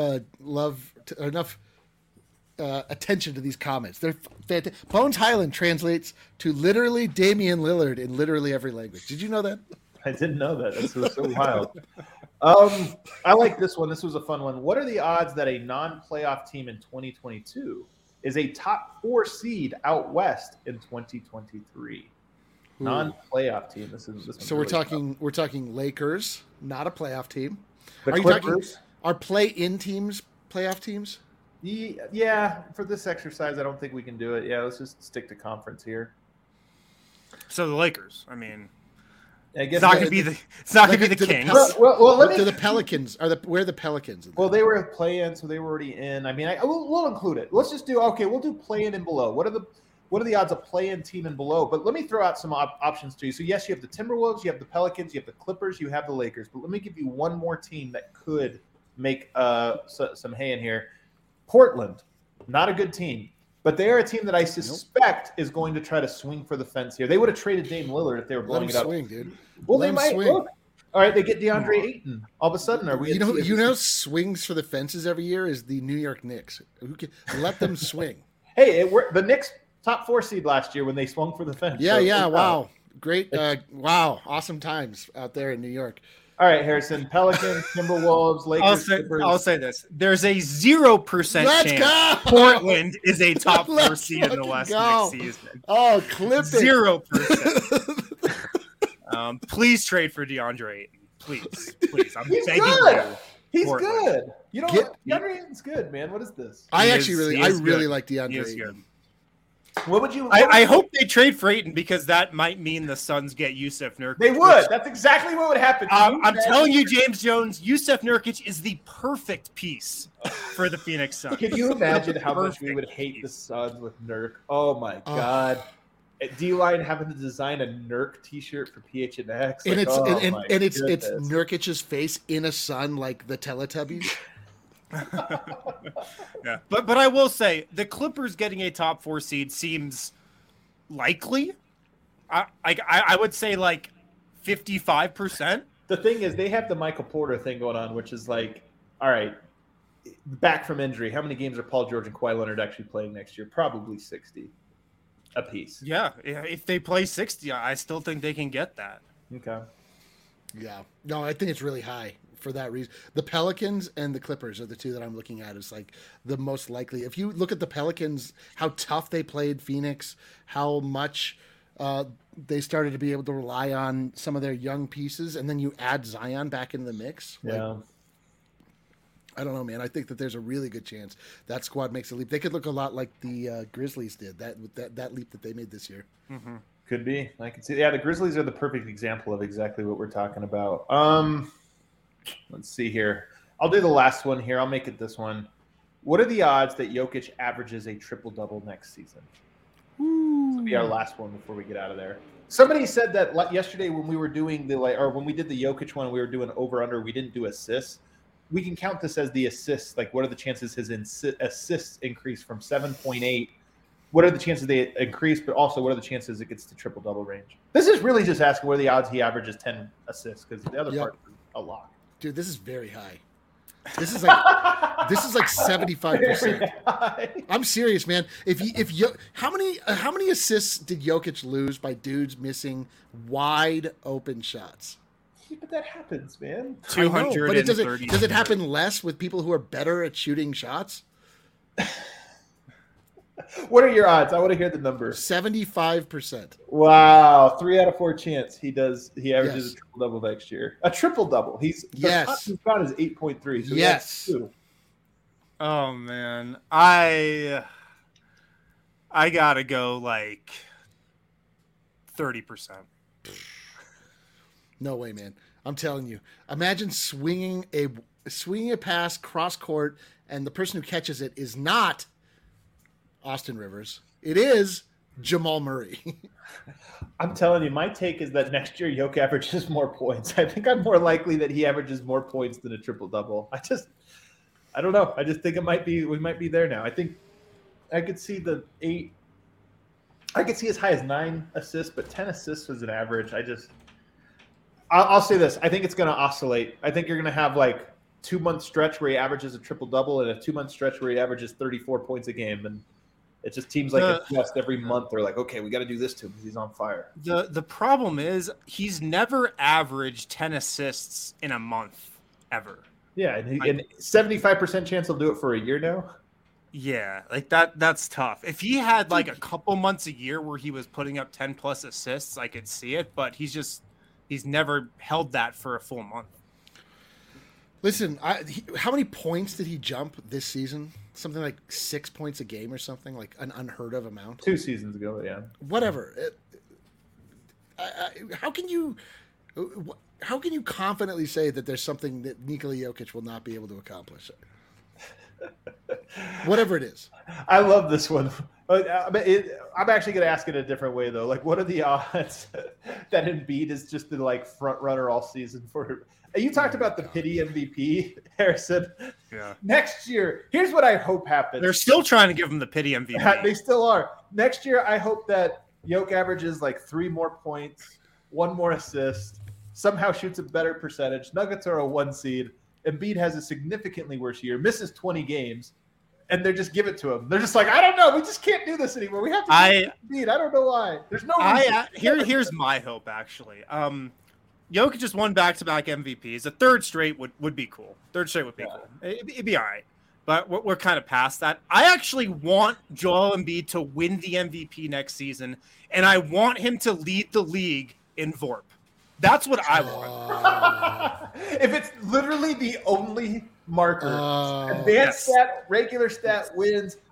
attention to these comments. They're fantastic. Bones Hyland translates to literally Damian Lillard in literally every language. Did you know that? I didn't know that. This was so wild. I like this one. This was a fun one. What are the odds that a non-playoff team in 2022 is a top 4 seed out west in 2023? Non-playoff team. This so we're talking tough. We're talking Lakers, not a playoff team. The Clippers are play-in teams playoff teams? Yeah, for this exercise, I don't think we can do it. Yeah, let's just stick to conference here. So the Lakers. I mean, I guess it's not going to be the Kings. Well, the Pelicans where are the Pelicans? Well, they were play-in, so they were already in. I mean, we'll include it. Let's just we'll do play-in and below. What are the odds of play-in team and below? But let me throw out some options to you. So yes, you have the Timberwolves, you have the Pelicans, you have the Clippers, you have the Lakers. But let me give you one more team that could make some hay in here. Portland, not a good team, but they are a team that I suspect is going to try to swing for the fence here. They would have traded Dame Lillard if they were blowing it up. Swing, dude. Well, they might. Look. All right, they get DeAndre Ayton. All of a sudden, are we? You know, swings for the fences every year is the New York Knicks. Let them swing. Hey, the Knicks top 4 seed last year when they swung for the fence. Yeah. Wow, great. Wow, awesome times out there in New York. All right, Harrison. Pelicans, Timberwolves, Lakers. I'll say this: there's a 0% chance Portland is a top 4 seed in the West next season. Oh, clip it! 0%. Please trade for DeAndre Ayton. Please. I'm begging you. He's good. DeAndre Ayton's good, man. What is this? I really like DeAndre Ayton. What would you? I hope they trade for Ayton because that might mean the Suns get Jusuf Nurkic. They would. That's exactly what would happen. I'm telling you, James Jones, Jusuf Nurkic is the perfect piece for the Phoenix Suns. Can you imagine how much we would hate the Suns with Nurk? Oh my God. D-Line having to design a Nurk T-shirt for PHNX, and it's Nurkic's face in a sun like the Teletubbies. Yeah, but I will say the Clippers getting a top 4 seed seems likely. I would say like 55%. The thing is, they have the Michael Porter thing going on, which is like, all right, back from injury. How many games are Paul George and Kawhi Leonard actually playing next year? Probably 60 a piece. Yeah, if they play 60, I still think they can get that. Okay. Yeah. No, I think it's really high for that reason. The Pelicans and the Clippers are the two that I'm looking at as like the most likely. If you look at the Pelicans, how tough they played Phoenix, how much they started to be able to rely on some of their young pieces, and then you add Zion back into the mix. Yeah. I don't know, man. I think that there's a really good chance that squad makes a leap. They could look a lot like the Grizzlies did, that leap that they made this year. Mm-hmm. Could be. I can see. Yeah, the Grizzlies are the perfect example of exactly what we're talking about. Let's see here. I'll do the last one here. I'll make it this one. What are the odds that Jokic averages a triple-double next season? This will be our last one before we get out of there. Somebody said that yesterday when we were doing when we did the Jokic one, we were doing over-under. We didn't do assists. We can count this as the assists. Like, what are the chances his assists increase from 7.8? What are the chances they increase? But also, what are the chances it gets to triple-double range? This is really just asking what are the odds he averages 10 assists, because the other part is a lot. Dude, this is very high. This is like 75%. I'm serious, man. How many assists did Jokic lose by dudes missing wide open shots? Yeah, but that happens, man. 230. But does it happen less with people who are better at shooting shots? What are your odds? I want to hear the number. 75%. Wow, 3 out of 4 chance he averages a triple double next year. A triple double. The top he's got is 8.3. So yes. Oh man, I gotta go like 30%. No way, man. I'm telling you. Imagine swinging a pass cross court, and the person who catches it is not Austin Rivers. It is Jamal Murray. I'm telling you, my take is that next year Jokic averages more points. I think I'm more likely that he averages more points than a triple double. I don't know. I just think we might be there now. I think I could see the 8. I could see as high as 9 assists, but 10 assists was an average. I'll say this. I think it's going to oscillate. I think you're going to have like 2-month stretch where he averages a triple double and a 2-month stretch where he averages 34 points a game. And it just seems like adjust every month. They're like, okay, we got to do this to him because he's on fire. The problem is he's never averaged 10 assists in a month ever. Yeah, and 75% chance he'll do it for a year now. Yeah, like that's tough. If he had like a couple months a year where he was putting up 10 plus assists, I could see it, but he's never held that for a full month. Listen, how many points did he jump this season? Something like 6 points a game or something, like an unheard of amount. 2 seasons ago, yeah. Whatever. How can you confidently say that there's something that Nikola Jokic will not be able to accomplish? Whatever it is. I love this one. I'm actually going to ask it a different way, though. Like, what are the odds that Embiid is just the like front runner all season for? You talked about the pity MVP, Harrison. Yeah. Next year, here's what I hope happens. They're still trying to give him the pity MVP. They still are. Next year, I hope that Jokic averages like 3 more points, 1 more assist, somehow shoots a better percentage. Nuggets are a 1 seed. Embiid has a significantly worse year, misses 20 games, and they just give it to him. They're just like, I don't know. We just can't do this anymore. We have to Embiid. I don't know why. There's no reason. Here's my hope, actually. Jokic just won back-to-back MVPs. A third straight would be cool. Third straight would be cool. It'd be all right. But we're kind of past that. I actually want Joel Embiid to win the MVP next season, and I want him to lead the league in VORP. That's what I want. If it's literally the only marker, advanced stat, regular stat wins,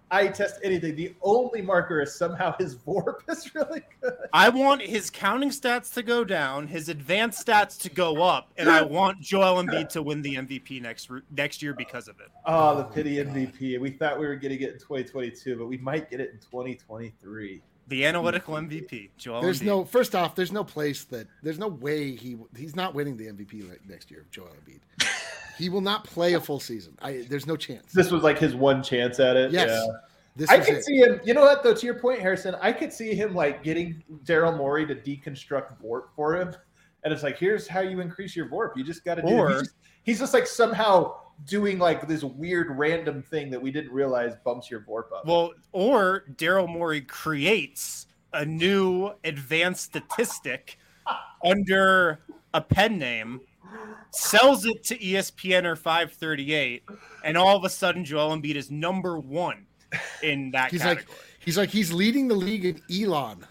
eye test anything. The only marker is somehow his VORP is really good. I want his counting stats to go down, his advanced stats to go up, and I want Joel Embiid to win the MVP next year because of it. Oh, the pity MVP. We thought we were going to get it in 2022, but we might get it in 2023. The analytical MVP, Joel Embiid. First off, there's no way he's not winning the MVP next year, Joel Embiid. He will not play a full season. There's no chance. This was like his one chance at it. Yes. Yeah. I could see him, you know what, though, to your point, Harrison, I could see him like getting Daryl Morey to deconstruct VORP for him. And it's like, here's how you increase your VORP. You just got to do it. He's just like somehow doing like this weird random thing that we didn't realize bumps your VORP up. Well, or Daryl Morey creates a new advanced statistic under a pen name, sells it to ESPN or 538, and all of a sudden Joel Embiid is number one in that category. He's leading the league in Elon.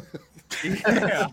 Yeah.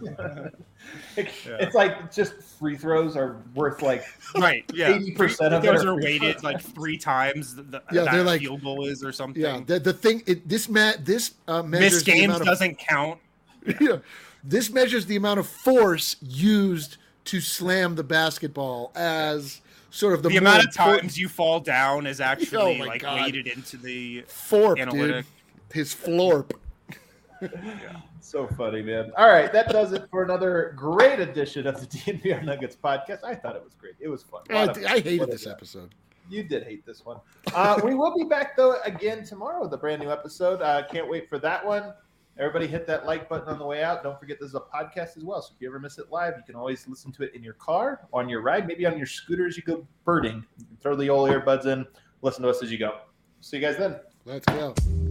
It's like just free throws are worth like 80% of those are weighted like 3 times that like, field goal is or something. Yeah, the thing this measures missed games doesn't count. Yeah, this measures the amount of force used to slam the basketball as sort of the amount of times you fall down is actually weighted into the FORP, analytic. Dude. His FLORP. Yeah. So funny, man. All right, that does it for another great edition of the DNVR Nuggets podcast. I thought it was great. It was fun. I hated this episode. You did hate this one. We will be back, though, again tomorrow with a brand new episode. Can't wait for that one. Everybody hit that like button on the way out. Don't forget this is a podcast as well. So if you ever miss it live, you can always listen to it in your car, on your ride, maybe on your scooter as you go birding. You can throw the old earbuds in, listen to us as you go. See you guys then. Let's go.